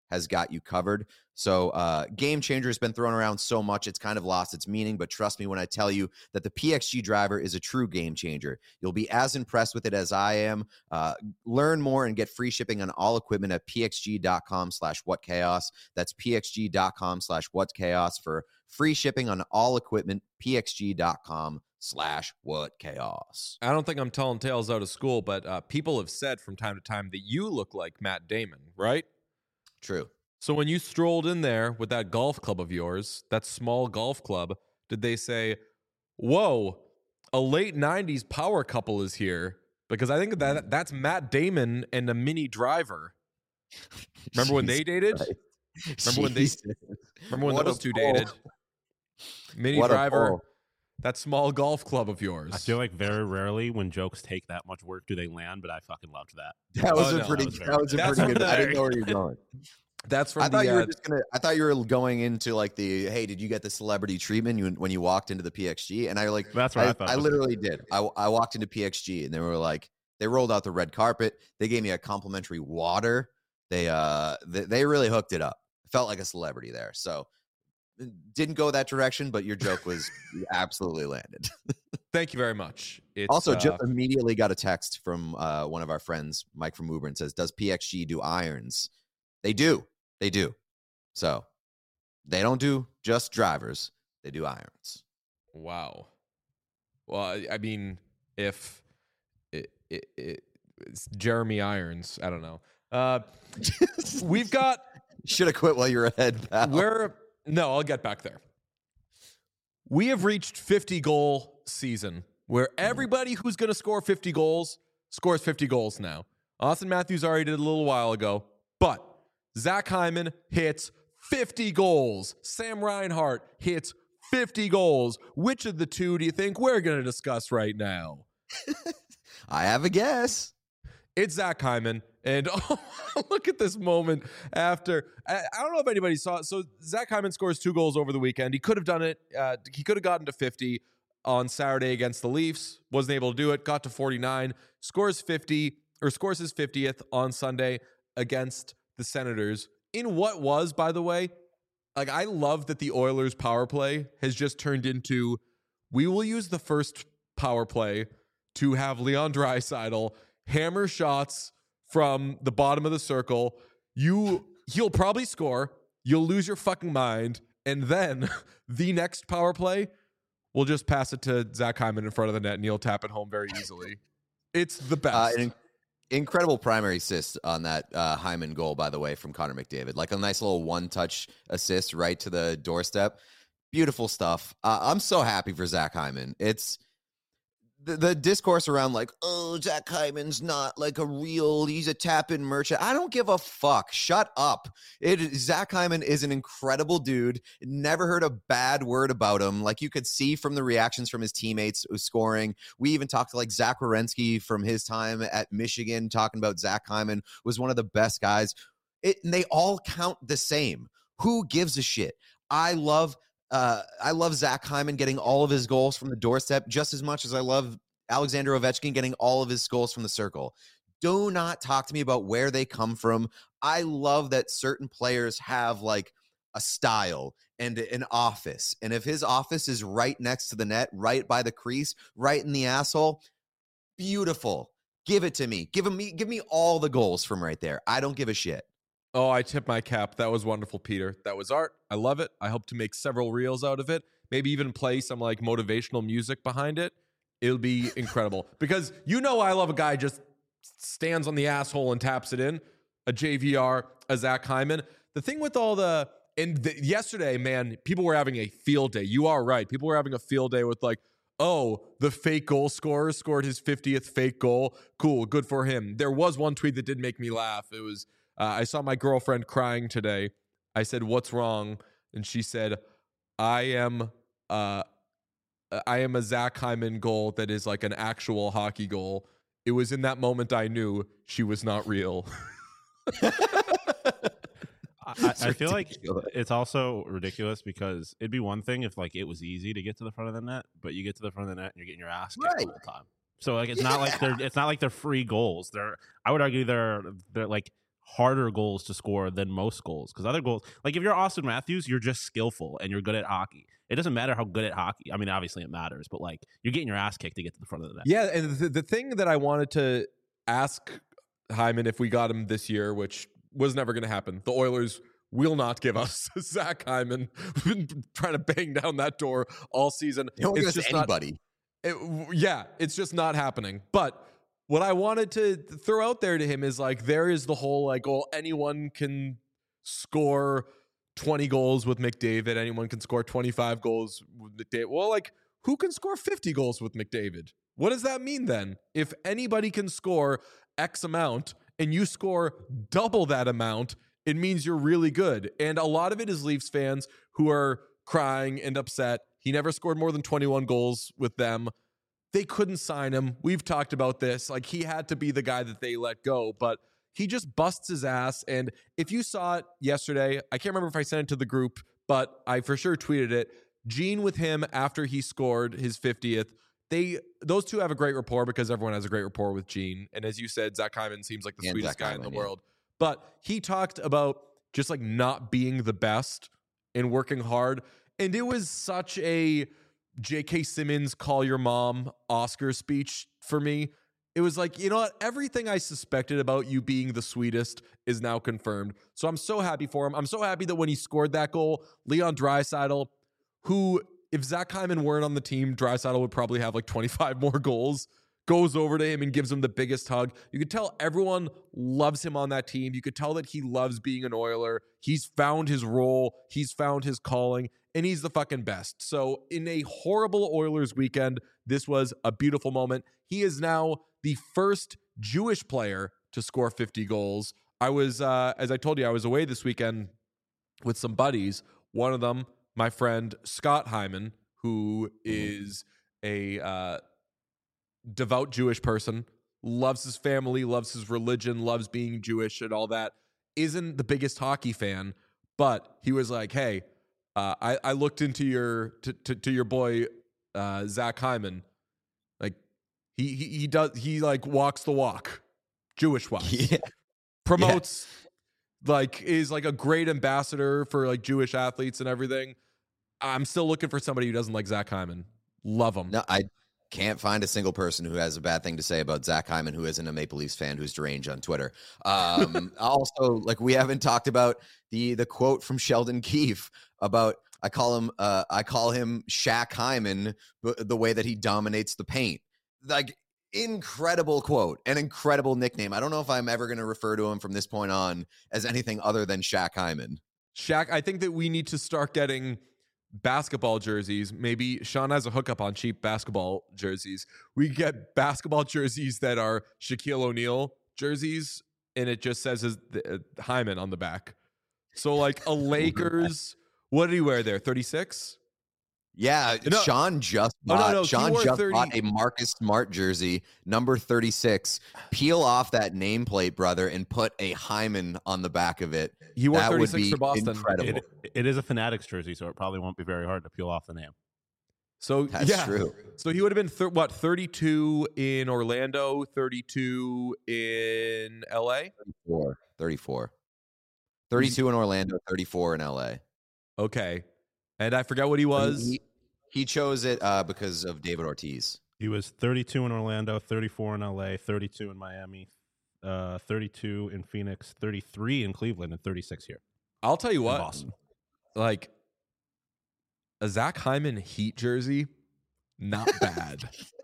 has got you covered. So uh, Game Changer has been thrown around so much, it's kind of lost its meaning. But trust me when I tell you that the P X G driver is a true game changer. You'll be as impressed with it as I am. Uh, learn more and get free shipping on all equipment at pxg.com slash whatchaos. That's pxg.com slash whatchaos for free shipping on all equipment, pxg.com slash whatchaos. I don't think I'm telling tales out of school, but uh, people have said from time to time that you look like Matt Damon, right? True. So when you strolled in there with that golf club of yours, that small golf club, did they say, whoa, a late nineties power couple is here? Because I think that that's Matt Damon and a Mini Driver. Remember when they dated? Christ. Remember when they Jesus. remember when What those a two pull. dated? Mini What a Driver, pull. that small golf club of yours. I feel like very rarely when jokes take that much work do they land, but I fucking loved that. That was Oh, a no, pretty. that was very That was a good. pretty good. That's I didn't very know where you're going. that's from I thought the, you were uh, just gonna. I thought you were going into like the. Hey, did you get the celebrity treatment you, when you walked into the P X G? And I like. That's what I, I, thought. I was- literally did. I, I walked into P X G and they were like, they rolled out the red carpet. They gave me a complimentary water. They uh, they, they really hooked it up. Felt like a celebrity there. So didn't go that direction, but your joke was absolutely landed. thank you very much. It's, Also, uh, just immediately got a text from uh, one of our friends, Mike from Uber, and says, "Does P X G do irons?" They do. They do. So they don't do just drivers. They do irons. wow. Well, I, I mean, if it, it, it, it's Jeremy Irons, I don't know. Uh, we've got Should have quit while you were ahead, pal. We're no, I'll get back there. We have reached fifty goal season where everybody who's going to score fifty goals scores fifty goals now. Austin Matthews already did a little while ago, but Zach Hyman hits fifty goals. Sam Reinhart hits fifty goals. Which of the two do you think we're going to discuss right now? I have a guess. It's Zach Hyman. And oh, look at this moment after. I, I don't know if anybody saw it. So Zach Hyman scores two goals over the weekend. He could have done it. Uh, he could have gotten to fifty on Saturday against the Leafs. Wasn't able to do it. Got to forty-nine. Scores fifty or scores his fiftieth on Sunday against the Senators. In what was, by the way, like I love that the Oilers power play has just turned into, we will use the first power play to have Leon Draisaitl hammer shots from the bottom of the circle. You, he'll probably score. You'll lose your fucking mind. And then the next power play, we'll just pass it to Zach Hyman in front of the net and he'll tap it home very easily. It's the best. Uh, an incredible primary assist on that uh, Hyman goal, by the way, from Connor McDavid. Like a nice little one-touch assist right to the doorstep. Beautiful stuff. Uh, I'm so happy for Zach Hyman. It's the, the discourse around like, oh, Zach Hyman's not like a real, he's a tap-in merchant. I don't give a fuck. Shut up. It, Zach Hyman is an incredible dude. Never heard a bad word about him. Like you could see from the reactions from his teammates scoring. We even talked to like Zach Werenski from his time at Michigan, talking about Zach Hyman was one of the best guys. It, and they all count the same. Who gives a shit? I love Uh, I love Zach Hyman getting all of his goals from the doorstep just as much as I love Alexander Ovechkin getting all of his goals from the circle. Do not talk to me about where they come from. I love that certain players have like a style and an office. And if his office is right next to the net, right by the crease, right in the asshole, beautiful. Give it to me. Give him me. Give me all the goals from right there. I don't give a shit. Oh, I tip my cap. That was wonderful, Peter. That was art. I love it. I hope to make several reels out of it. Maybe even play some like motivational music behind it. It'll be incredible. Because you know I love a guy just stands on the asshole and taps it in. A J V R, a Zach Hyman. The thing with all the, and the, yesterday, man, people were having a field day. You are right. People were having a field day with like, oh, the fake goal scorer scored his fiftieth fake goal. Cool, good for him. There was one tweet that did make me laugh. It was, Uh, I saw my girlfriend crying today. I said, "What's wrong?" And she said, "I am, uh, I am a Zach Hyman goal that is like an actual hockey goal." It was in that moment I knew she was not real. I, I feel like ridiculous. it's also ridiculous because it'd be one thing if like it was easy to get to the front of the net, but you get to the front of the net and you're getting your ass kicked Right. the whole time. So like it's not like they're it's not like they're free goals. They're I would argue they're they're like harder goals to score than most goals. Because other goals, like if you're Austin Matthews, you're just skillful and you're good at hockey. It doesn't matter how good at hockey. I mean, obviously it matters, but like you're getting your ass kicked to get to the front of the net. Yeah, and the, the thing that I wanted to ask Hyman if we got him this year, which was never going to happen, the Oilers will not give us Zach Hyman. We've been trying to bang down that door all season. They don't give It's us just not, anybody. it, yeah, it's just not happening. But what I wanted to throw out there to him is like, there is the whole like, well, anyone can score twenty goals with McDavid. Anyone can score twenty-five goals with McDavid. Well, like, who can score fifty goals with McDavid? What does that mean then? If anybody can score X amount and you score double that amount, it means you're really good. And a lot of it is Leafs fans who are crying and upset. He never scored more than twenty-one goals with them. They couldn't sign him. We've talked about this. Like, he had to be the guy that they let go, but he just busts his ass. And if you saw it yesterday, I can't remember if I sent it to the group, but I for sure tweeted it. Gene with him after he scored his fiftieth. They those two have a great rapport because everyone has a great rapport with Gene. And as you said, Zach Hyman seems like the And sweetest Zach guy Hyman, in the yeah. world. But he talked about just like not being the best and working hard. And it was such a J K Simmons call your mom Oscar speech for me. It was like, you know what? Everything I suspected about you being the sweetest is now confirmed. So I'm so happy for him. I'm so happy that when he scored that goal, Leon Draisaitl, who, if Zach Hyman weren't on the team, Draisaitl would probably have like twenty-five more goals, goes over to him and gives him the biggest hug. You could tell everyone loves him on that team. You could tell that he loves being an Oiler. He's found his role. He's found his calling, and he's the fucking best. So in a horrible Oilers weekend, this was a beautiful moment. He is now the first Jewish player to score fifty goals. I was, uh, as I told you, I was away this weekend with some buddies. One of them, my friend Scott Hyman, who is a uh, devout Jewish person, loves his family, loves his religion, loves being Jewish and all that, isn't the biggest hockey fan, but he was like, hey, uh, I, I looked into your to, to, to your boy uh, Zach Hyman. Like he, he he does he like walks the walk, Jewish wise. Yeah. Promotes like is like a great ambassador for like Jewish athletes and everything. I'm still looking for somebody who doesn't like Zach Hyman. Love him. No, I can't find a single person who has a bad thing to say about Zach Hyman who isn't a Maple Leafs fan who's deranged on Twitter. Um, also, like we haven't talked about the the quote from Sheldon Keefe about I call him uh, I call him Shaq Hyman b- the way that he dominates the paint. Like incredible quote, an incredible nickname. I don't know if I'm ever going to refer to him from this point on as anything other than Shaq Hyman. Shaq, I think that we need to start getting basketball jerseys. Maybe Sean has a hookup on cheap basketball jerseys. We get basketball jerseys that are Shaquille O'Neal jerseys, and it just says his, uh, Hyman on the back. So like a Lakers, what did he wear there? thirty-six? Yeah, No. Sean just Oh, no, bought, no, he Sean wore just thirty bought a Marcus Smart jersey, number thirty-six. Peel off that nameplate, brother, and put a Hyman on the back of it. He wore That would thirty-six be for Boston. incredible. It, it is a Fanatics jersey, so it probably won't be very hard to peel off the name. So That's yeah. true. So he would have been thir- what thirty-two in Orlando, thirty-two in L A. thirty-four. thirty-four. thirty-two in Orlando, thirty-four in L A. Okay, and I forgot what he was. He, he chose it uh, because of David Ortiz. He was thirty-two in Orlando, thirty-four in L A, thirty-two in Miami, uh, thirty-two in Phoenix, thirty-three in Cleveland, and thirty-six here I'll tell you in what, Boston. like a Zach Hyman Heat jersey, not bad.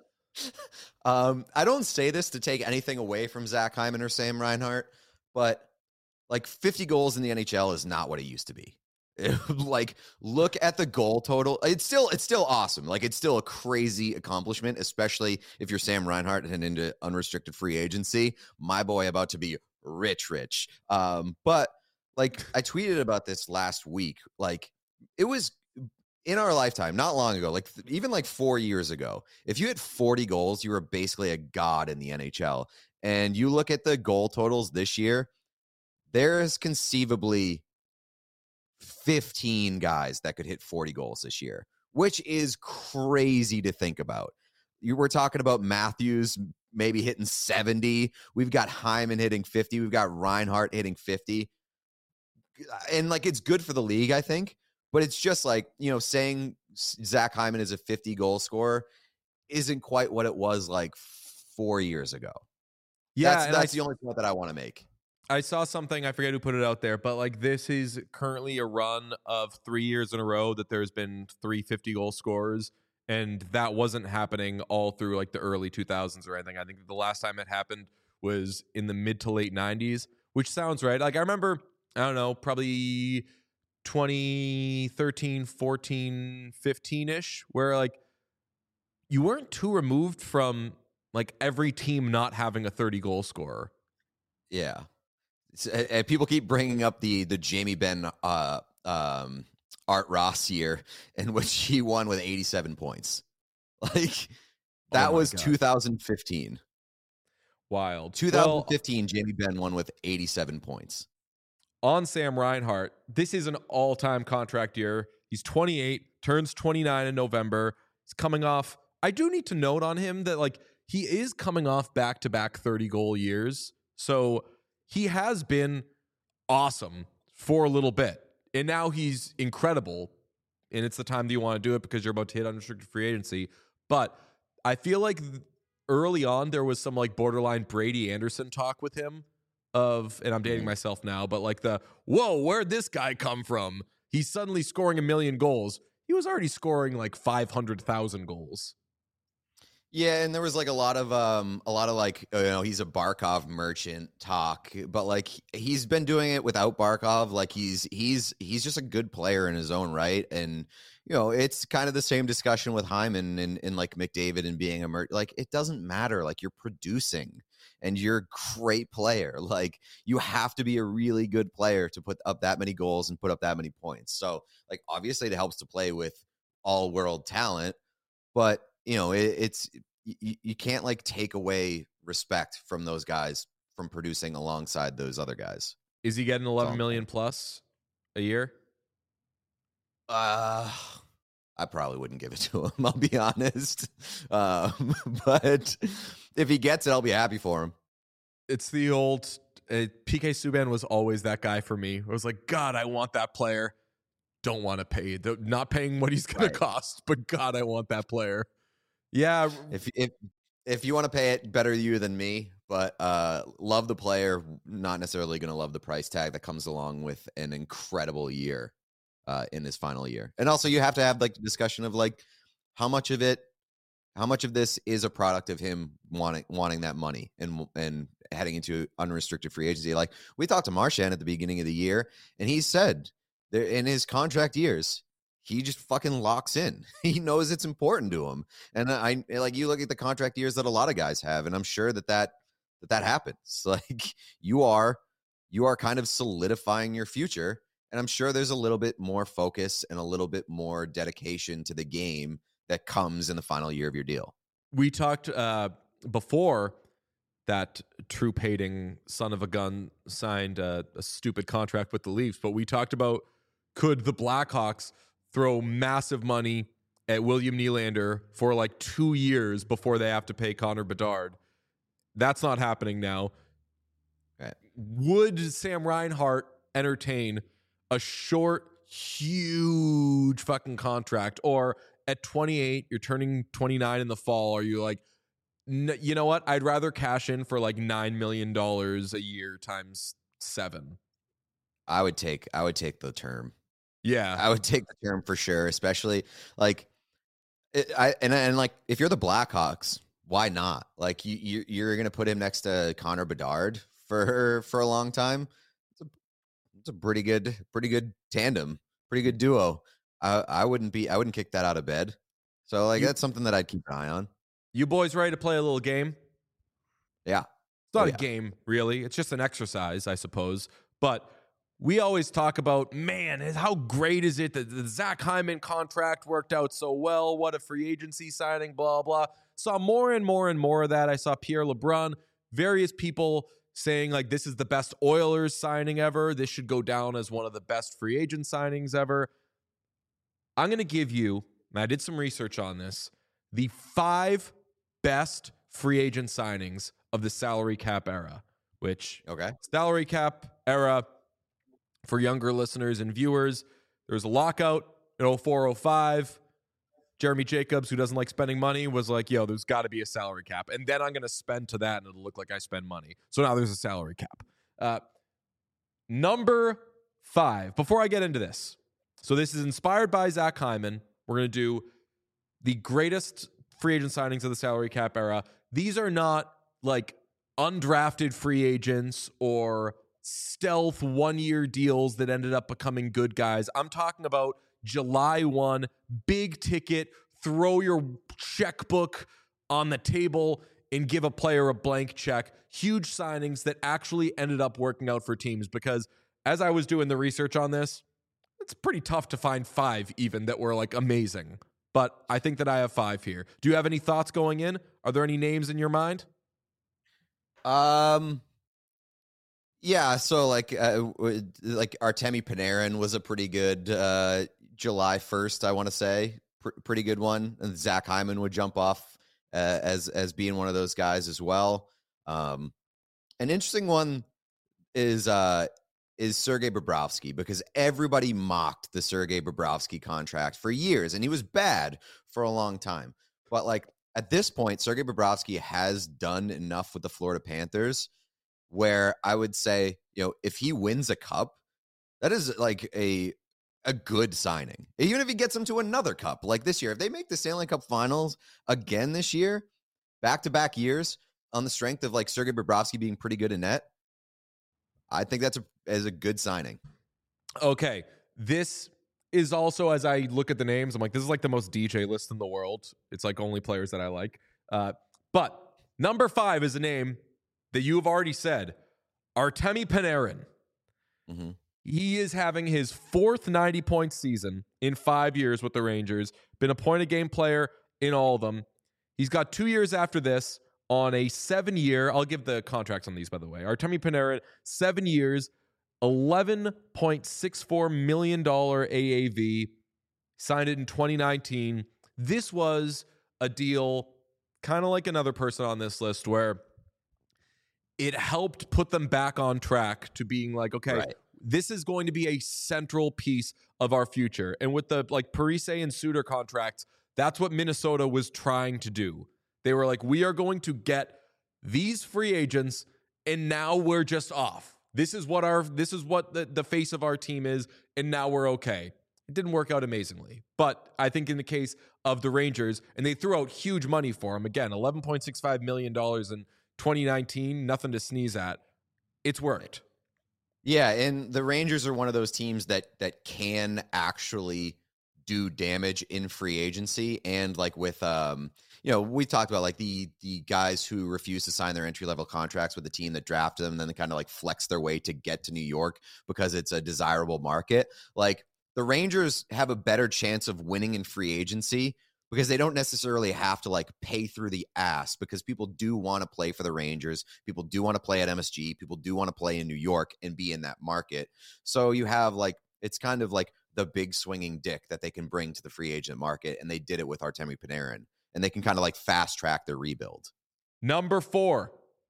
Um, I don't say this to take anything away from Zach Hyman or Sam Reinhart, but like fifty goals in the N H L is not what it used to be. Like, look at the goal total. It's still it's still awesome. Like, it's still a crazy accomplishment, especially if you're Sam Reinhart and into unrestricted free agency. My boy about to be rich, rich. Um, but like I tweeted about this last week. Like, it was in our lifetime, not long ago, like th- even like four years ago, if you hit forty goals, you were basically a god in the N H L. And you look at the goal totals this year, there is conceivably fifteen guys that could hit forty goals this year, which is crazy to think about. you were talking about Matthews maybe hitting seventy. We've got Hyman hitting fifty. We've got Reinhart hitting fifty. And like, it's good for the league, I think. But it's just like, you know, saying Zach Hyman is a fifty goal scorer isn't quite what it was like four years ago. Yeah, that's, and that's I, the only point that I want to make. I saw something, I forget who put it out there, but like this is currently a run of three years in a row that there's been three fifty goal scorers, and that wasn't happening all through like the early two thousands or anything. I think the last time it happened was in the mid to late nineties, which sounds right. Like I remember, I don't know, probably twenty thirteen, fourteen, fifteen-ish, where like you weren't too removed from like every team not having a thirty goal scorer. Yeah. And people keep bringing up the the Jamie Benn uh, um, Art Ross year in which he won with eighty-seven points. Like that Oh my was God. two thousand fifteen. Wild. twenty fifteen, Well, Jamie Benn won with eighty-seven points. on Sam Reinhart, this is an all-time contract year. He's twenty-eight, turns twenty-nine in November. He's coming off. I do need to note on him that like he is coming off back-to-back thirty goal years. So he has been awesome for a little bit. And now he's incredible. And it's the time that you want to do it because you're about to hit unrestricted free agency. But I feel like th- early on there was some like borderline Brady Anderson talk with him of, and I'm dating myself now, but like the, whoa, where'd this guy come from? He's suddenly scoring a million goals. He was already scoring like five hundred thousand goals. Yeah, and there was like a lot of um a lot of like, you know, he's a Barkov merchant talk, but like he's been doing it without Barkov. Like he's he's he's just a good player in his own right. And you know, it's kind of the same discussion with Hyman and, and like McDavid and being a mer- like it doesn't matter. Like you're producing and you're a great player. Like you have to be a really good player to put up that many goals and put up that many points. So like obviously it helps to play with all world talent, but you know, it, it's you, you can't like take away respect from those guys from producing alongside those other guys. Is he getting eleven million plus a year? Uh, I probably wouldn't give it to him. I'll be honest. Um, but if he gets it, I'll be happy for him. It's the old uh, P K Subban was always that guy for me. I was like, God, I want that player. Don't want to pay. The, not paying what he's going Right. to cost, but God, I want that player. Yeah. If if if you want to pay it, better you than me. But uh, love the player, not necessarily going to love the price tag that comes along with an incredible year uh, in his final year. And also, you have to have like the discussion of like how much of it, how much of this is a product of him wanting wanting that money and and heading into unrestricted free agency. Like we talked to Marchand at the beginning of the year, and he said there in his contract years, he just fucking locks in. He knows it's important to him. And I like you look at the contract years that a lot of guys have, and I'm sure that that that, that happens. Like you are you are kind of solidifying your future, and I'm sure there's a little bit more focus and a little bit more dedication to the game that comes in the final year of your deal. We talked uh, before that troop hating son of a gun signed a, a stupid contract with the Leafs, but we talked about could the Blackhawks throw massive money at William Nylander for like two years before they have to pay Connor Bedard. That's not happening now. Right. Would Sam Reinhart entertain a short, huge fucking contract? Or at twenty-eight, you're turning twenty-nine in the fall, are you like, n- you know what? I'd rather cash in for like nine million dollars a year times seven. I would take I would take the term. Yeah. I would take the term for sure, especially like it, I and and like if you're the Blackhawks, why not? Like you, you you're gonna put him next to Connor Bedard for for a long time. It's a it's a pretty good pretty good tandem, pretty good duo. I I wouldn't be I wouldn't kick that out of bed. So like You- that's something that I'd keep an eye on. You boys ready to play a little game? Yeah. It's not Oh, a yeah. game, really. It's just an exercise, I suppose. But we always talk about, man, how great is it that the Zach Hyman contract worked out so well? What a free agency signing, blah, blah. Saw more and more and more of that. I saw Pierre LeBrun, various people saying, like, this is the best Oilers signing ever. This should go down as one of the best free agent signings ever. I'm going to give you, and I did some research on this, the five best free agent signings of the salary cap era, which Okay. salary cap era for younger listeners and viewers, there was a lockout in oh four oh five. Jeremy Jacobs, who doesn't like spending money, was like, yo, there's got to be a salary cap. And then I'm going to spend to that and it'll look like I spend money. So now there's a salary cap. Uh, number five, before I get into this. So this is inspired by Zach Hyman. We're going to do the greatest free agent signings of the salary cap era. These are not like undrafted free agents or stealth one-year deals that ended up becoming good guys. I'm talking about July first, big ticket, throw your checkbook on the table and give a player a blank check. Huge signings that actually ended up working out for teams, because as I was doing the research on this, it's pretty tough to find five even that were like amazing. But I think that I have five here. Do you have any thoughts going in? Are there any names in your mind? Um, yeah. So like, uh, like Artemi Panarin was a pretty good uh, July first, I want to say, Pr- pretty good one. And Zach Hyman would jump off uh, as as being one of those guys as well. Um, an interesting one is uh, is Sergei Bobrovsky, because everybody mocked the Sergei Bobrovsky contract for years, and he was bad for a long time. But like at this point, Sergei Bobrovsky has done enough with the Florida Panthers where I would say, you know, if he wins a cup, that is like a a good signing. Even if he gets them to another cup, like this year, if they make the Stanley Cup Finals again this year, back-to-back years, on the strength of like Sergei Bobrovsky being pretty good in net, I think that's a as a good signing. Okay, this is also, as I look at the names, I'm like, this is like the most D J list in the world. It's like only players that I like. Uh, but number five is a name that you have already said, Artemi Panarin. Mm-hmm. He is having his fourth ninety-point season in five years with the Rangers. Been a point-a-game player in all of them. He's got two years after this on a seven-year, I'll give the contracts on these, by the way. Artemi Panarin, seven years, eleven point six four million dollars A A V. Signed it in twenty nineteen. This was a deal kind of like another person on this list where it helped put them back on track to being like, okay, Right. this is going to be a central piece of our future. And with the like Parise and Suter contracts, that's what Minnesota was trying to do. They were like, we are going to get these free agents, and now we're just off. This is what our this is what the, the face of our team is, and now we're okay. It didn't work out amazingly. But I think in the case of the Rangers, and they threw out huge money for him, again, eleven point six five million dollars in twenty nineteen, nothing to sneeze at. It's worked. Yeah, and the Rangers are one of those teams that that can actually do damage in free agency, and like with um you know, we talked about like the the guys who refuse to sign their entry level contracts with the team that drafted them, and then they kind of like flex their way to get to New York because it's a desirable market. Like the Rangers have a better chance of winning in free agency because they don't necessarily have to like pay through the ass, because people do want to play for the Rangers. People do want to play at M S G. People do want to play in New York and be in that market. So you have like, it's kind of like the big swinging dick that they can bring to the free agent market. And they did it with Artemi Panarin, and they can kind of like fast track their rebuild. Number four,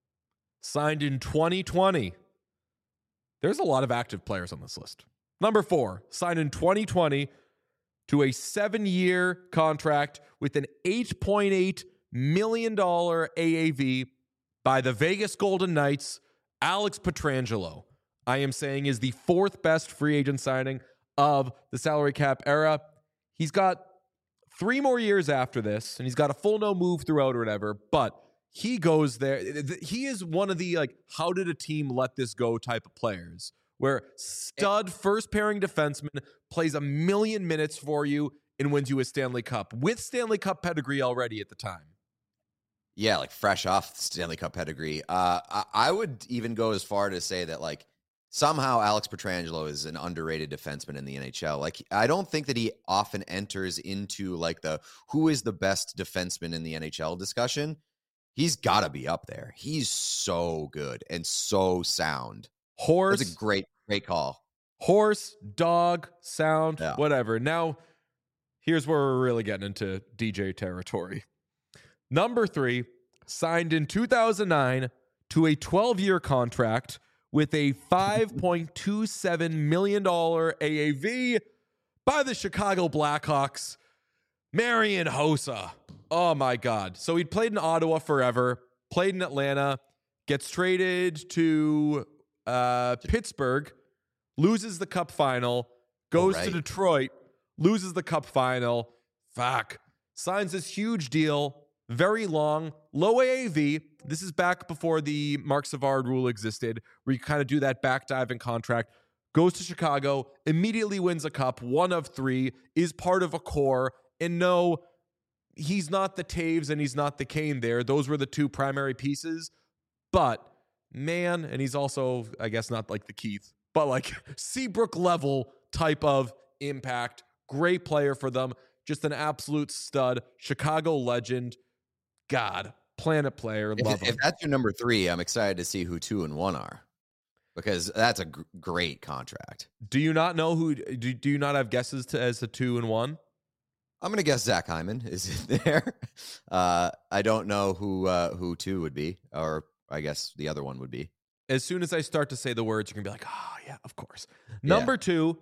signed in twenty twenty. There's a lot of active players on this list. Number four, signed in twenty twenty to a seven-year contract with an eight point eight million dollars A A V by the Vegas Golden Knights, Alex Pietrangelo. I am saying is the fourth best free agent signing of the salary cap era. He's got three more years after this, and he's got a full no move throughout or whatever, but he goes there. He is one of the, like, how did a team let this go type of players, where stud first pairing defenseman plays a million minutes for you and wins you a Stanley Cup with Stanley Cup pedigree already at the time. Yeah, like fresh off Stanley Cup pedigree. Uh, I, I would even go as far to say that like somehow Alex Pietrangelo is an underrated defenseman in the N H L. Like, I don't think that he often enters into like the who is the best defenseman in the N H L discussion. He's got to be up there. He's so good and so sound. Horse. That's a great, great call. Horse, dog, sound, Yeah. whatever. Now, here's where we're really getting into D J territory. Number three, signed in two thousand nine to a twelve-year contract with a five point two seven million dollars A A V by the Chicago Blackhawks, Marian Hossa. Oh, my God. So he'd played in Ottawa forever, played in Atlanta, gets traded to uh, Pittsburgh, loses the cup final, goes Oh, right. to Detroit, loses the cup final. Fuck. Signs this huge deal, very long, low A A V. This is back before the Mark Savard rule existed, where you kind of do that backdiving contract. Goes to Chicago, immediately wins a cup, one of three, is part of a core. And no, he's not the Taves and he's not the Kane there. Those were the two primary pieces. But, man, and he's also, I guess, not like the Keith, but like Seabrook level type of impact. Great player for them. Just an absolute stud. Chicago legend. God, planet player. Love If, him. if that's your number three, I'm excited to see who two and one are, because that's a gr- great contract. Do you not know who? Do, do you not have guesses to as a two and one? I'm gonna guess Zach Hyman is in there. Uh, I don't know who uh, who two would be, or I guess the other one would be. As soon as I start to say the words, you're gonna be like, oh yeah, of course. Number yeah. two,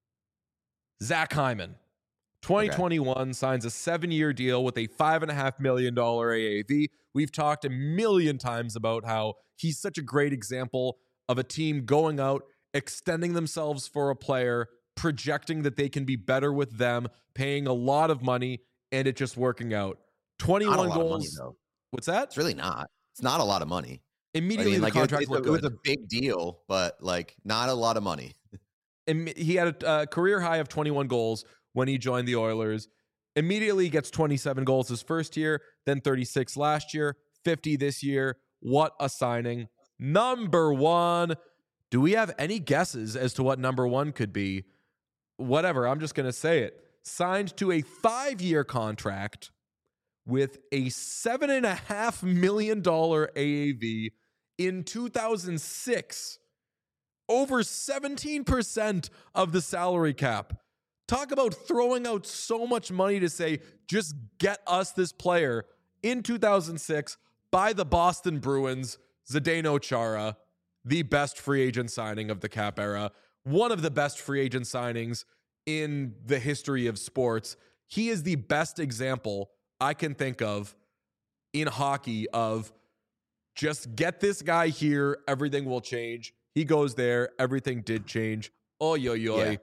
Zach Hyman. twenty twenty-one okay. signs a seven-year deal with a five and a half million dollar A A V. We've talked a million times about how he's such a great example of a team going out, extending themselves for a player, projecting that they can be better with them, paying a lot of money, and it just working out. twenty-one not a lot goals. Of money, What's that? It's really not. It's not a lot of money. Immediately, I mean, the like, contract it, it, looked it was good. a big deal, but like not a lot of money. And he had a uh, career high of twenty-one goals when he joined the Oilers. Immediately gets twenty-seven goals his first year, then thirty-six last year, fifty this year. What a signing. Number one. Do we have any guesses as to what number one could be? Whatever, I'm just going to say it. Signed to a five-year contract with a seven point five million dollars A A V in two thousand six. Over seventeen percent of the salary cap. Talk about throwing out so much money to say, just get us this player in two thousand six by the Boston Bruins, Zdeno Chara, the best free agent signing of the cap era, one of the best free agent signings in the history of sports. He is the best example I can think of in hockey of just get this guy here, everything will change. He goes there, everything did change. Oh, yo, yo. Yeah.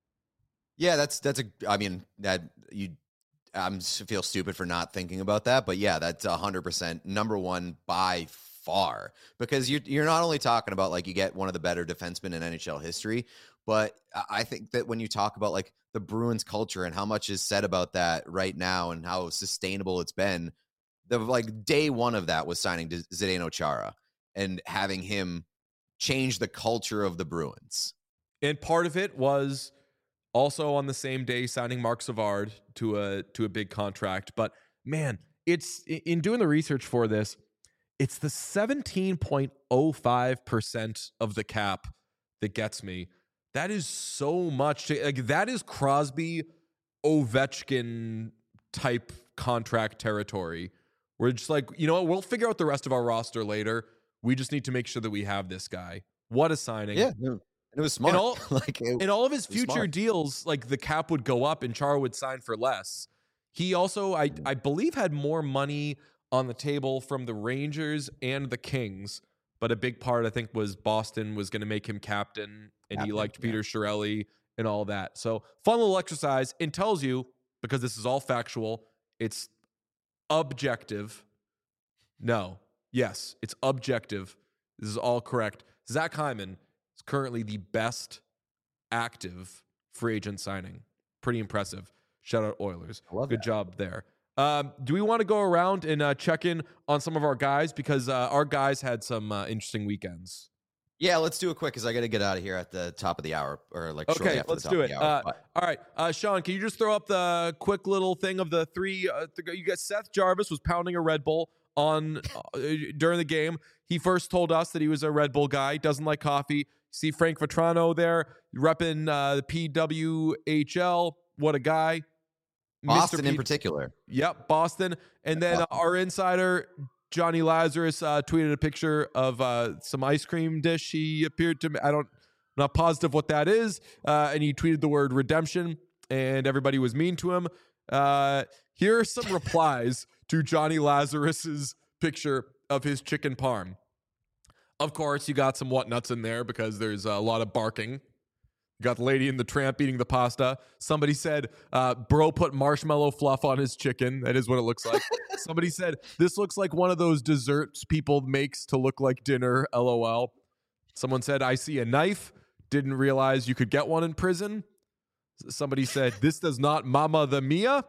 yeah, that's that's a. I mean, that you. I'm feel stupid for not thinking about that, but yeah, that's a hundred percent number one by far, because you're you're not only talking about like you get one of the better defensemen in N H L history, but I think that when you talk about like the Bruins culture and how much is said about that right now and how sustainable it's been, the like day one of that was signing Zdeno Chara and having him change the culture of the Bruins. And part of it was also on the same day signing Mark Savard to a to a big contract. But man, it's in doing the research for this, it's the seventeen point oh five percent of the cap that gets me. That is so much. To, like that is Crosby, Ovechkin type contract territory. We're just like, you know what? We'll figure out the rest of our roster later. We just need to make sure that we have this guy. What a signing. Yeah. And it was smart. In all, like it, in all of his future smart. deals, like the cap would go up and Chara would sign for less. He also, I, I believe, had more money on the table from the Rangers and the Kings. But a big part, I think, was Boston was going to make him captain, and captain, he liked yeah. Peter Chiarelli and all that. So fun little exercise. And tells you, because this is all factual, it's objective. No. Yes, it's objective. This is all correct. Zach Hyman is currently the best active free agent signing. Pretty impressive. Shout out Oilers. Good that. job there. Um, do we want to go around and uh, check in on some of our guys? Because uh, our guys had some uh, interesting weekends. Yeah, let's do it quick because I got to get out of here at the top of the hour. or like Okay, after let's the top do of it. the hour, Uh, all right. Uh, Sean, can you just throw up the quick little thing of the three? Uh, th- you got Seth Jarvis was pounding a Red Bull on uh, during the game. He first told us that he was a Red Bull guy, doesn't like coffee. See Frank Vetrano there repping uh, the P W H L. What a guy. Boston Mister in Pete- particular. Yep, Boston. And then uh, our insider, Johnny Lazarus, uh, tweeted a picture of uh, some ice cream dish he appeared to, I don't, I'm not positive what that is. Uh, and he tweeted the word redemption, and everybody was mean to him. Uh, here are some replies to Johnny Lazarus's picture of his chicken parm. Of course, you got some whatnuts in there because there's a lot of barking. You got the lady in the tramp eating the pasta. Somebody said, uh, bro put marshmallow fluff on his chicken. That is what it looks like. Somebody said, this looks like one of those desserts people makes to look like dinner, LOL. Someone said, I see a knife. Didn't realize you could get one in prison. Somebody said, this does not mama the Mia.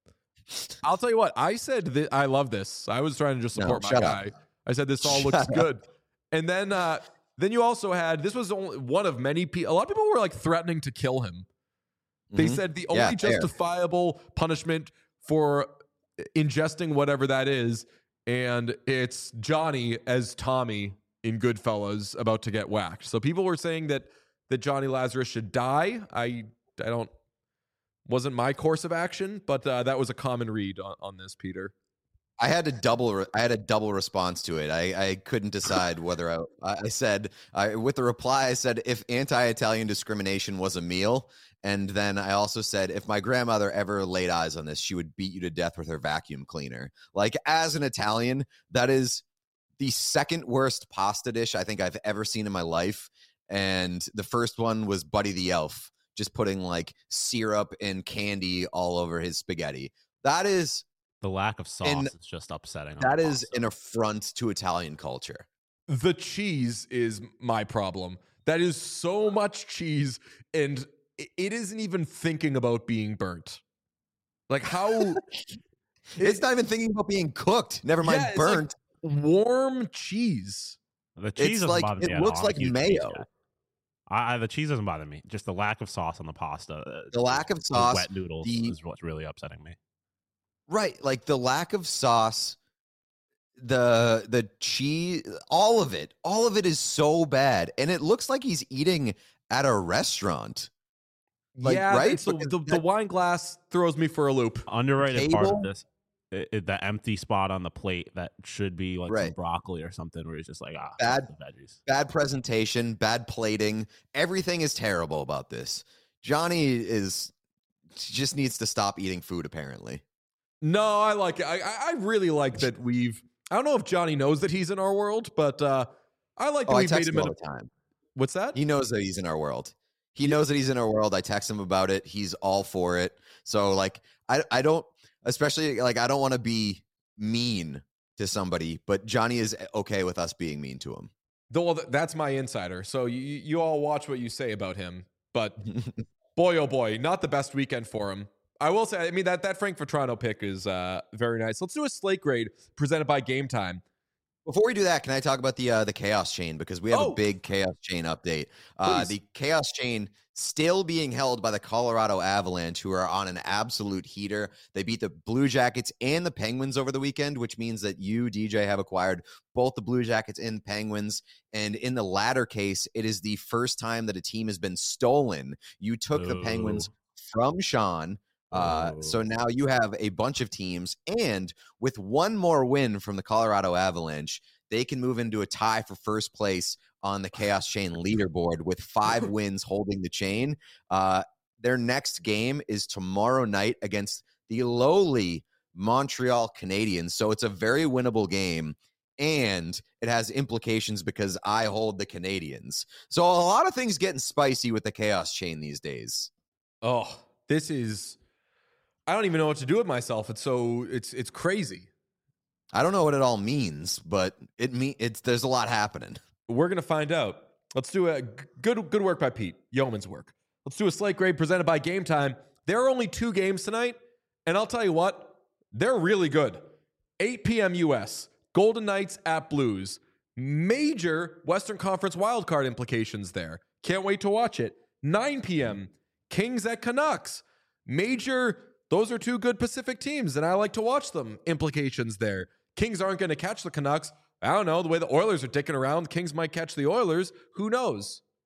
I'll tell you what, I said that I love this. I was trying to just support No, my shut guy. up. I said, this all Shut looks up. good. And then, uh, then you also had, this was only one of many people. A lot of people were like threatening to kill him. They Mhm. said the Yeah, only fair. justifiable punishment for ingesting whatever that is, and it's Johnny as Tommy in Goodfellas about to get whacked. So people were saying that that Johnny Lazarus should die. I I don't wasn't my course of action, but uh, that was a common read on, on this, Peter. I had a double. Re- I had a double response to it. I, I couldn't decide whether I. I said I, with the reply. I said if anti-Italian discrimination was a meal, and then I also said if my grandmother ever laid eyes on this, she would beat you to death with her vacuum cleaner. Like as an Italian, that is the second worst pasta dish I think I've ever seen in my life. And the first one was Buddy the Elf, just putting like syrup and candy all over his spaghetti. That is. The lack of sauce And is just upsetting. on That the is pasta. an affront to Italian culture. The cheese is my problem. That is so much cheese, and i- it isn't even thinking about being burnt. Like how It's not even thinking about being cooked. Never mind Yeah, it's like burnt. warm cheese. The cheese It's doesn't like- bother it me at looks all. I'm a like huge cheese mayo. guy. I, I, the cheese doesn't bother me. Just the lack of sauce on the pasta. uh, The lack of those sauce, wet noodles the- is what's really upsetting me. right? Like the lack of sauce, the the cheese, all of it, all of it is so bad, and it looks like he's eating at a restaurant. Like, yeah, right? it's the, Because the, the that- wine glass throws me for a loop. Underrated part table? of this, i i- the empty spot on the plate that should be like some Right. broccoli or something, where he's just like, ah, Bad- the veggies. Bad presentation, bad plating. Everything is terrible about this. Johnny is just needs to stop eating food. Apparently, No, I like it. I, I I really like that we've. I don't know if Johnny knows that he's in our world, but uh, I like that oh, I we've made text him him in. all A, the time. what's that? He knows that he's in our world. He knows that he's in our world. I text him about it. He's all for it. So like I I don't especially like I don't want to be mean to somebody, but Johnny is okay with us being mean to him. Though, well, th- that's my insider. So you you all watch what you say about him, but boy oh boy, not the best weekend for him. I will say, I mean that that Frankfurt Toronto pick is uh, very nice. Let's do a slate grade presented by Game Time. Before we do that, can I talk about the uh, the chaos chain because we have Oh. a big chaos chain update. Uh, Please. the chaos chain still being held by the Colorado Avalanche, who are on an absolute heater. They beat the Blue Jackets and the Penguins over the weekend, which means that you, D J, have acquired both the Blue Jackets and Penguins. And in the latter case, it is the first time that a team has been stolen. You took the Penguins Ooh. from Sean. Uh, so Oh. now you have a bunch of teams, and with one more win from the Colorado Avalanche, they can move into a tie for first place on the Chaos Chain leaderboard with five wins holding the chain. Uh, their next game is tomorrow night against the lowly Montreal Canadiens. So it's a very winnable game, and it has implications because I hold the Canadiens. So a lot of things getting spicy with the Chaos Chain these days. Oh, this is. I don't even know what to do with myself. It's so it's it's crazy. I don't know what it all means, but it mean it's there's a lot happening. We're gonna find out. Let's do a g- good good work by Pete. Yeoman's work. Let's do a slate grade presented by Game Time. There are only two games tonight, and I'll tell you what, they're really good. eight p.m. U S. Golden Knights at Blues. Major Western Conference wildcard implications there. Can't wait to watch it. nine p.m. Kings at Canucks. Major. Those are two good Pacific teams, and I like to watch them. Implications there. Kings aren't going to catch the Canucks. I don't know. The way the Oilers are dicking around, Kings might catch the Oilers. Who knows?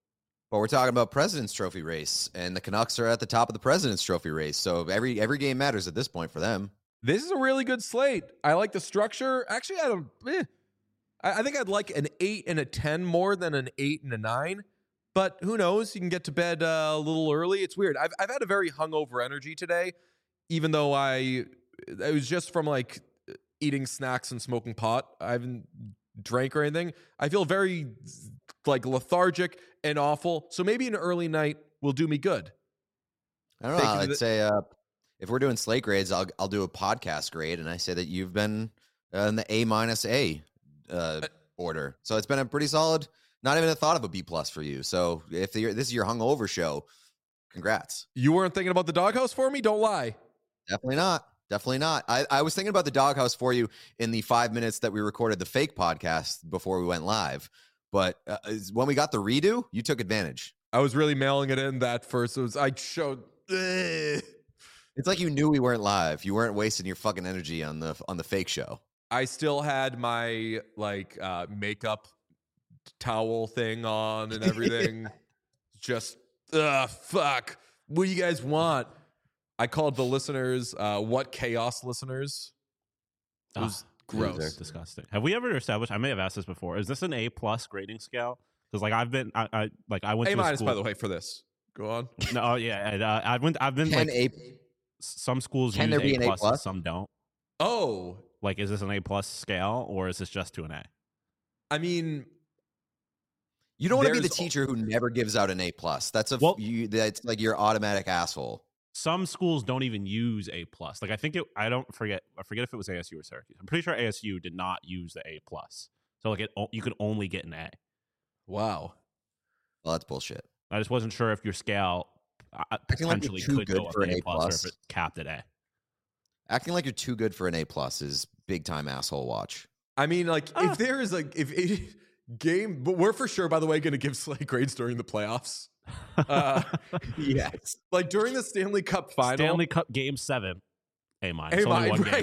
But we're talking about President's Trophy race, and the Canucks are at the top of the President's Trophy race. So every every game matters at this point for them. This is a really good slate. I like the structure. Actually, I don't. Eh. I, I think I'd like an eight and a ten more than an eight and a nine. But who knows? You can get to bed uh, a little early. It's weird. I've I've had a very hungover energy today, even though I it was just from like eating snacks and smoking pot. I haven't drank or anything. I feel very like lethargic and awful. So maybe an early night will do me good. I don't know. Thank you to I'd the- say uh, if we're doing slate grades, I'll I'll do a podcast grade, and I say that you've been uh, in the A minus A uh, order. So it's been a pretty solid. Not even a thought of a B plus for you. So if the, this is your hungover show, congrats. You weren't thinking about the doghouse for me? Don't lie. Definitely not. Definitely not. I, I was thinking about the doghouse for you in the five minutes that we recorded the fake podcast before we went live. But uh, when we got the redo, you took advantage. I was really mailing it in that first. It was, I showed. Ugh. It's like you knew we weren't live. You weren't wasting your fucking energy on the on the fake show. I still had my like uh, makeup towel thing on and everything. Just uh fuck. What do you guys want? I called the listeners uh what chaos listeners. It was Ah, gross. loser. Disgusting. Have we ever established? I may have asked this before. Is this an A plus grading scale? Because like I've been, I, I like I went A to a minus, school. by the way, for this. Go on. No, oh, yeah, and, uh, I went. I've been Can like a some schools can use there be A an A plus, and plus? some don't. Oh, Like, is this an A plus scale or is this just to an A? I mean, You don't want to be the There's- teacher who never gives out an A plus. That's a Well- you. That's like your automatic asshole. Some schools don't even use A plus. Like I think it. I don't forget. I forget if it was A S U or Syracuse. I'm pretty sure A S U did not use the A plus. So like it, o- you could only get an A. wow. Well, that's bullshit. I just wasn't sure if your scale uh, Acting like you're potentially too could good go up for to an A A plus, plus. or if it capped at A. Acting like you're too good for an A plus is big time asshole watch. I mean, like, Ah. if there is like, if a game, but we're for sure, by the way, going to give slate grades during the playoffs. Uh, Yes. like during the Stanley Cup final. Stanley Cup Game Seven, A minus. A Only minus, one game. right?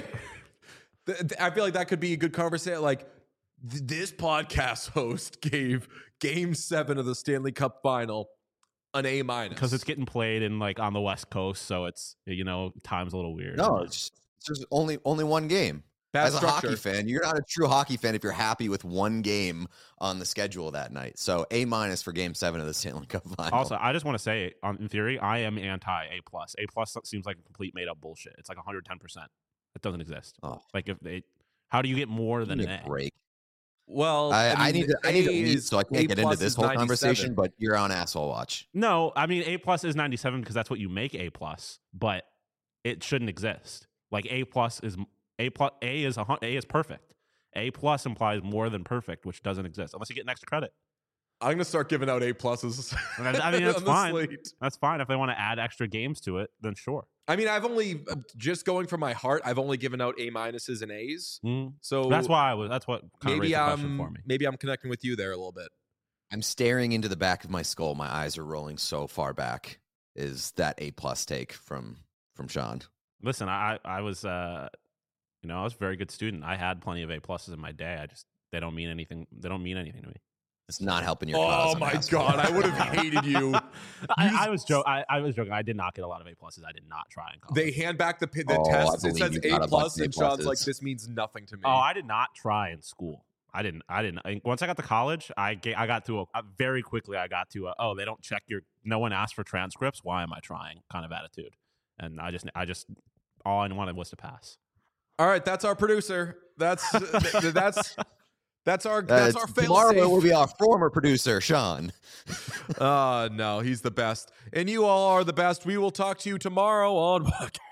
Th- th- I feel like that could be a good conversation. Like th- this podcast host gave Game Seven of the Stanley Cup Final an A minus Because it's getting played in like on the West Coast, so it's you know time's a little weird. No, it's, it's just only only one game. bad As a structure. hockey fan, you're not a true hockey fan if you're happy with one game on the schedule that night. So A minus for Game Seven of the Stanley Cup Final. Also, I just want to say, on, in theory, I am anti A plus. A plus seems like a complete made up bullshit. It's like one hundred ten percent. It doesn't exist. Oh. Like if they, how do you get more Give than me an a A? break. Well, I, I, mean, need to I need to A eat, is- so I A can't get into plus this is whole ninety-seven. conversation. But you're on asshole watch. No, I mean A plus is ninety seven because that's what you make A plus, but it shouldn't exist. Like A plus is A plus A is a hun- A is perfect. A plus implies more than perfect, which doesn't exist unless you get an extra credit. I'm gonna start giving out A pluses. I I mean, that's on the fine. slate. That's fine if they want to add extra games to it. Then sure. I mean, I've only just going from my heart. I've only given out A minuses and A's. Mm. So That's why I was. That's what kind of maybe raised the question I'm for me. maybe I'm connecting with you there a little bit. I'm staring into the back of my skull. My eyes are rolling so far back. Is that A plus take from from Sean? Listen, I I was uh you know I was a very good student. I had plenty of A pluses in my day. I just they don't mean anything. They don't mean anything to me. It's not helping your cause. Oh I'm my asshole. god, I would have hated you. I, I was joking. I, I was joking. I did not get a lot of A pluses. I did not try in college. They hand back the pi- the Oh, I tests. It believe says you A got a bunch plus, of A and Sean's like, pluses. "This means nothing to me." oh, I did not try in school. I didn't. I didn't. I, once I got to college, I ga- I got to a uh, very quickly. I got to a, oh, they don't check your. No one asked for transcripts. Why am I trying? Kind of attitude. And I just I just all I wanted was to pass. All right, that's our producer. That's th- that's that's our Uh, that's our fail tomorrow safe. will be our former producer, Sean. Uh no, he's the best. And you all are the best. We will talk to you tomorrow on podcast.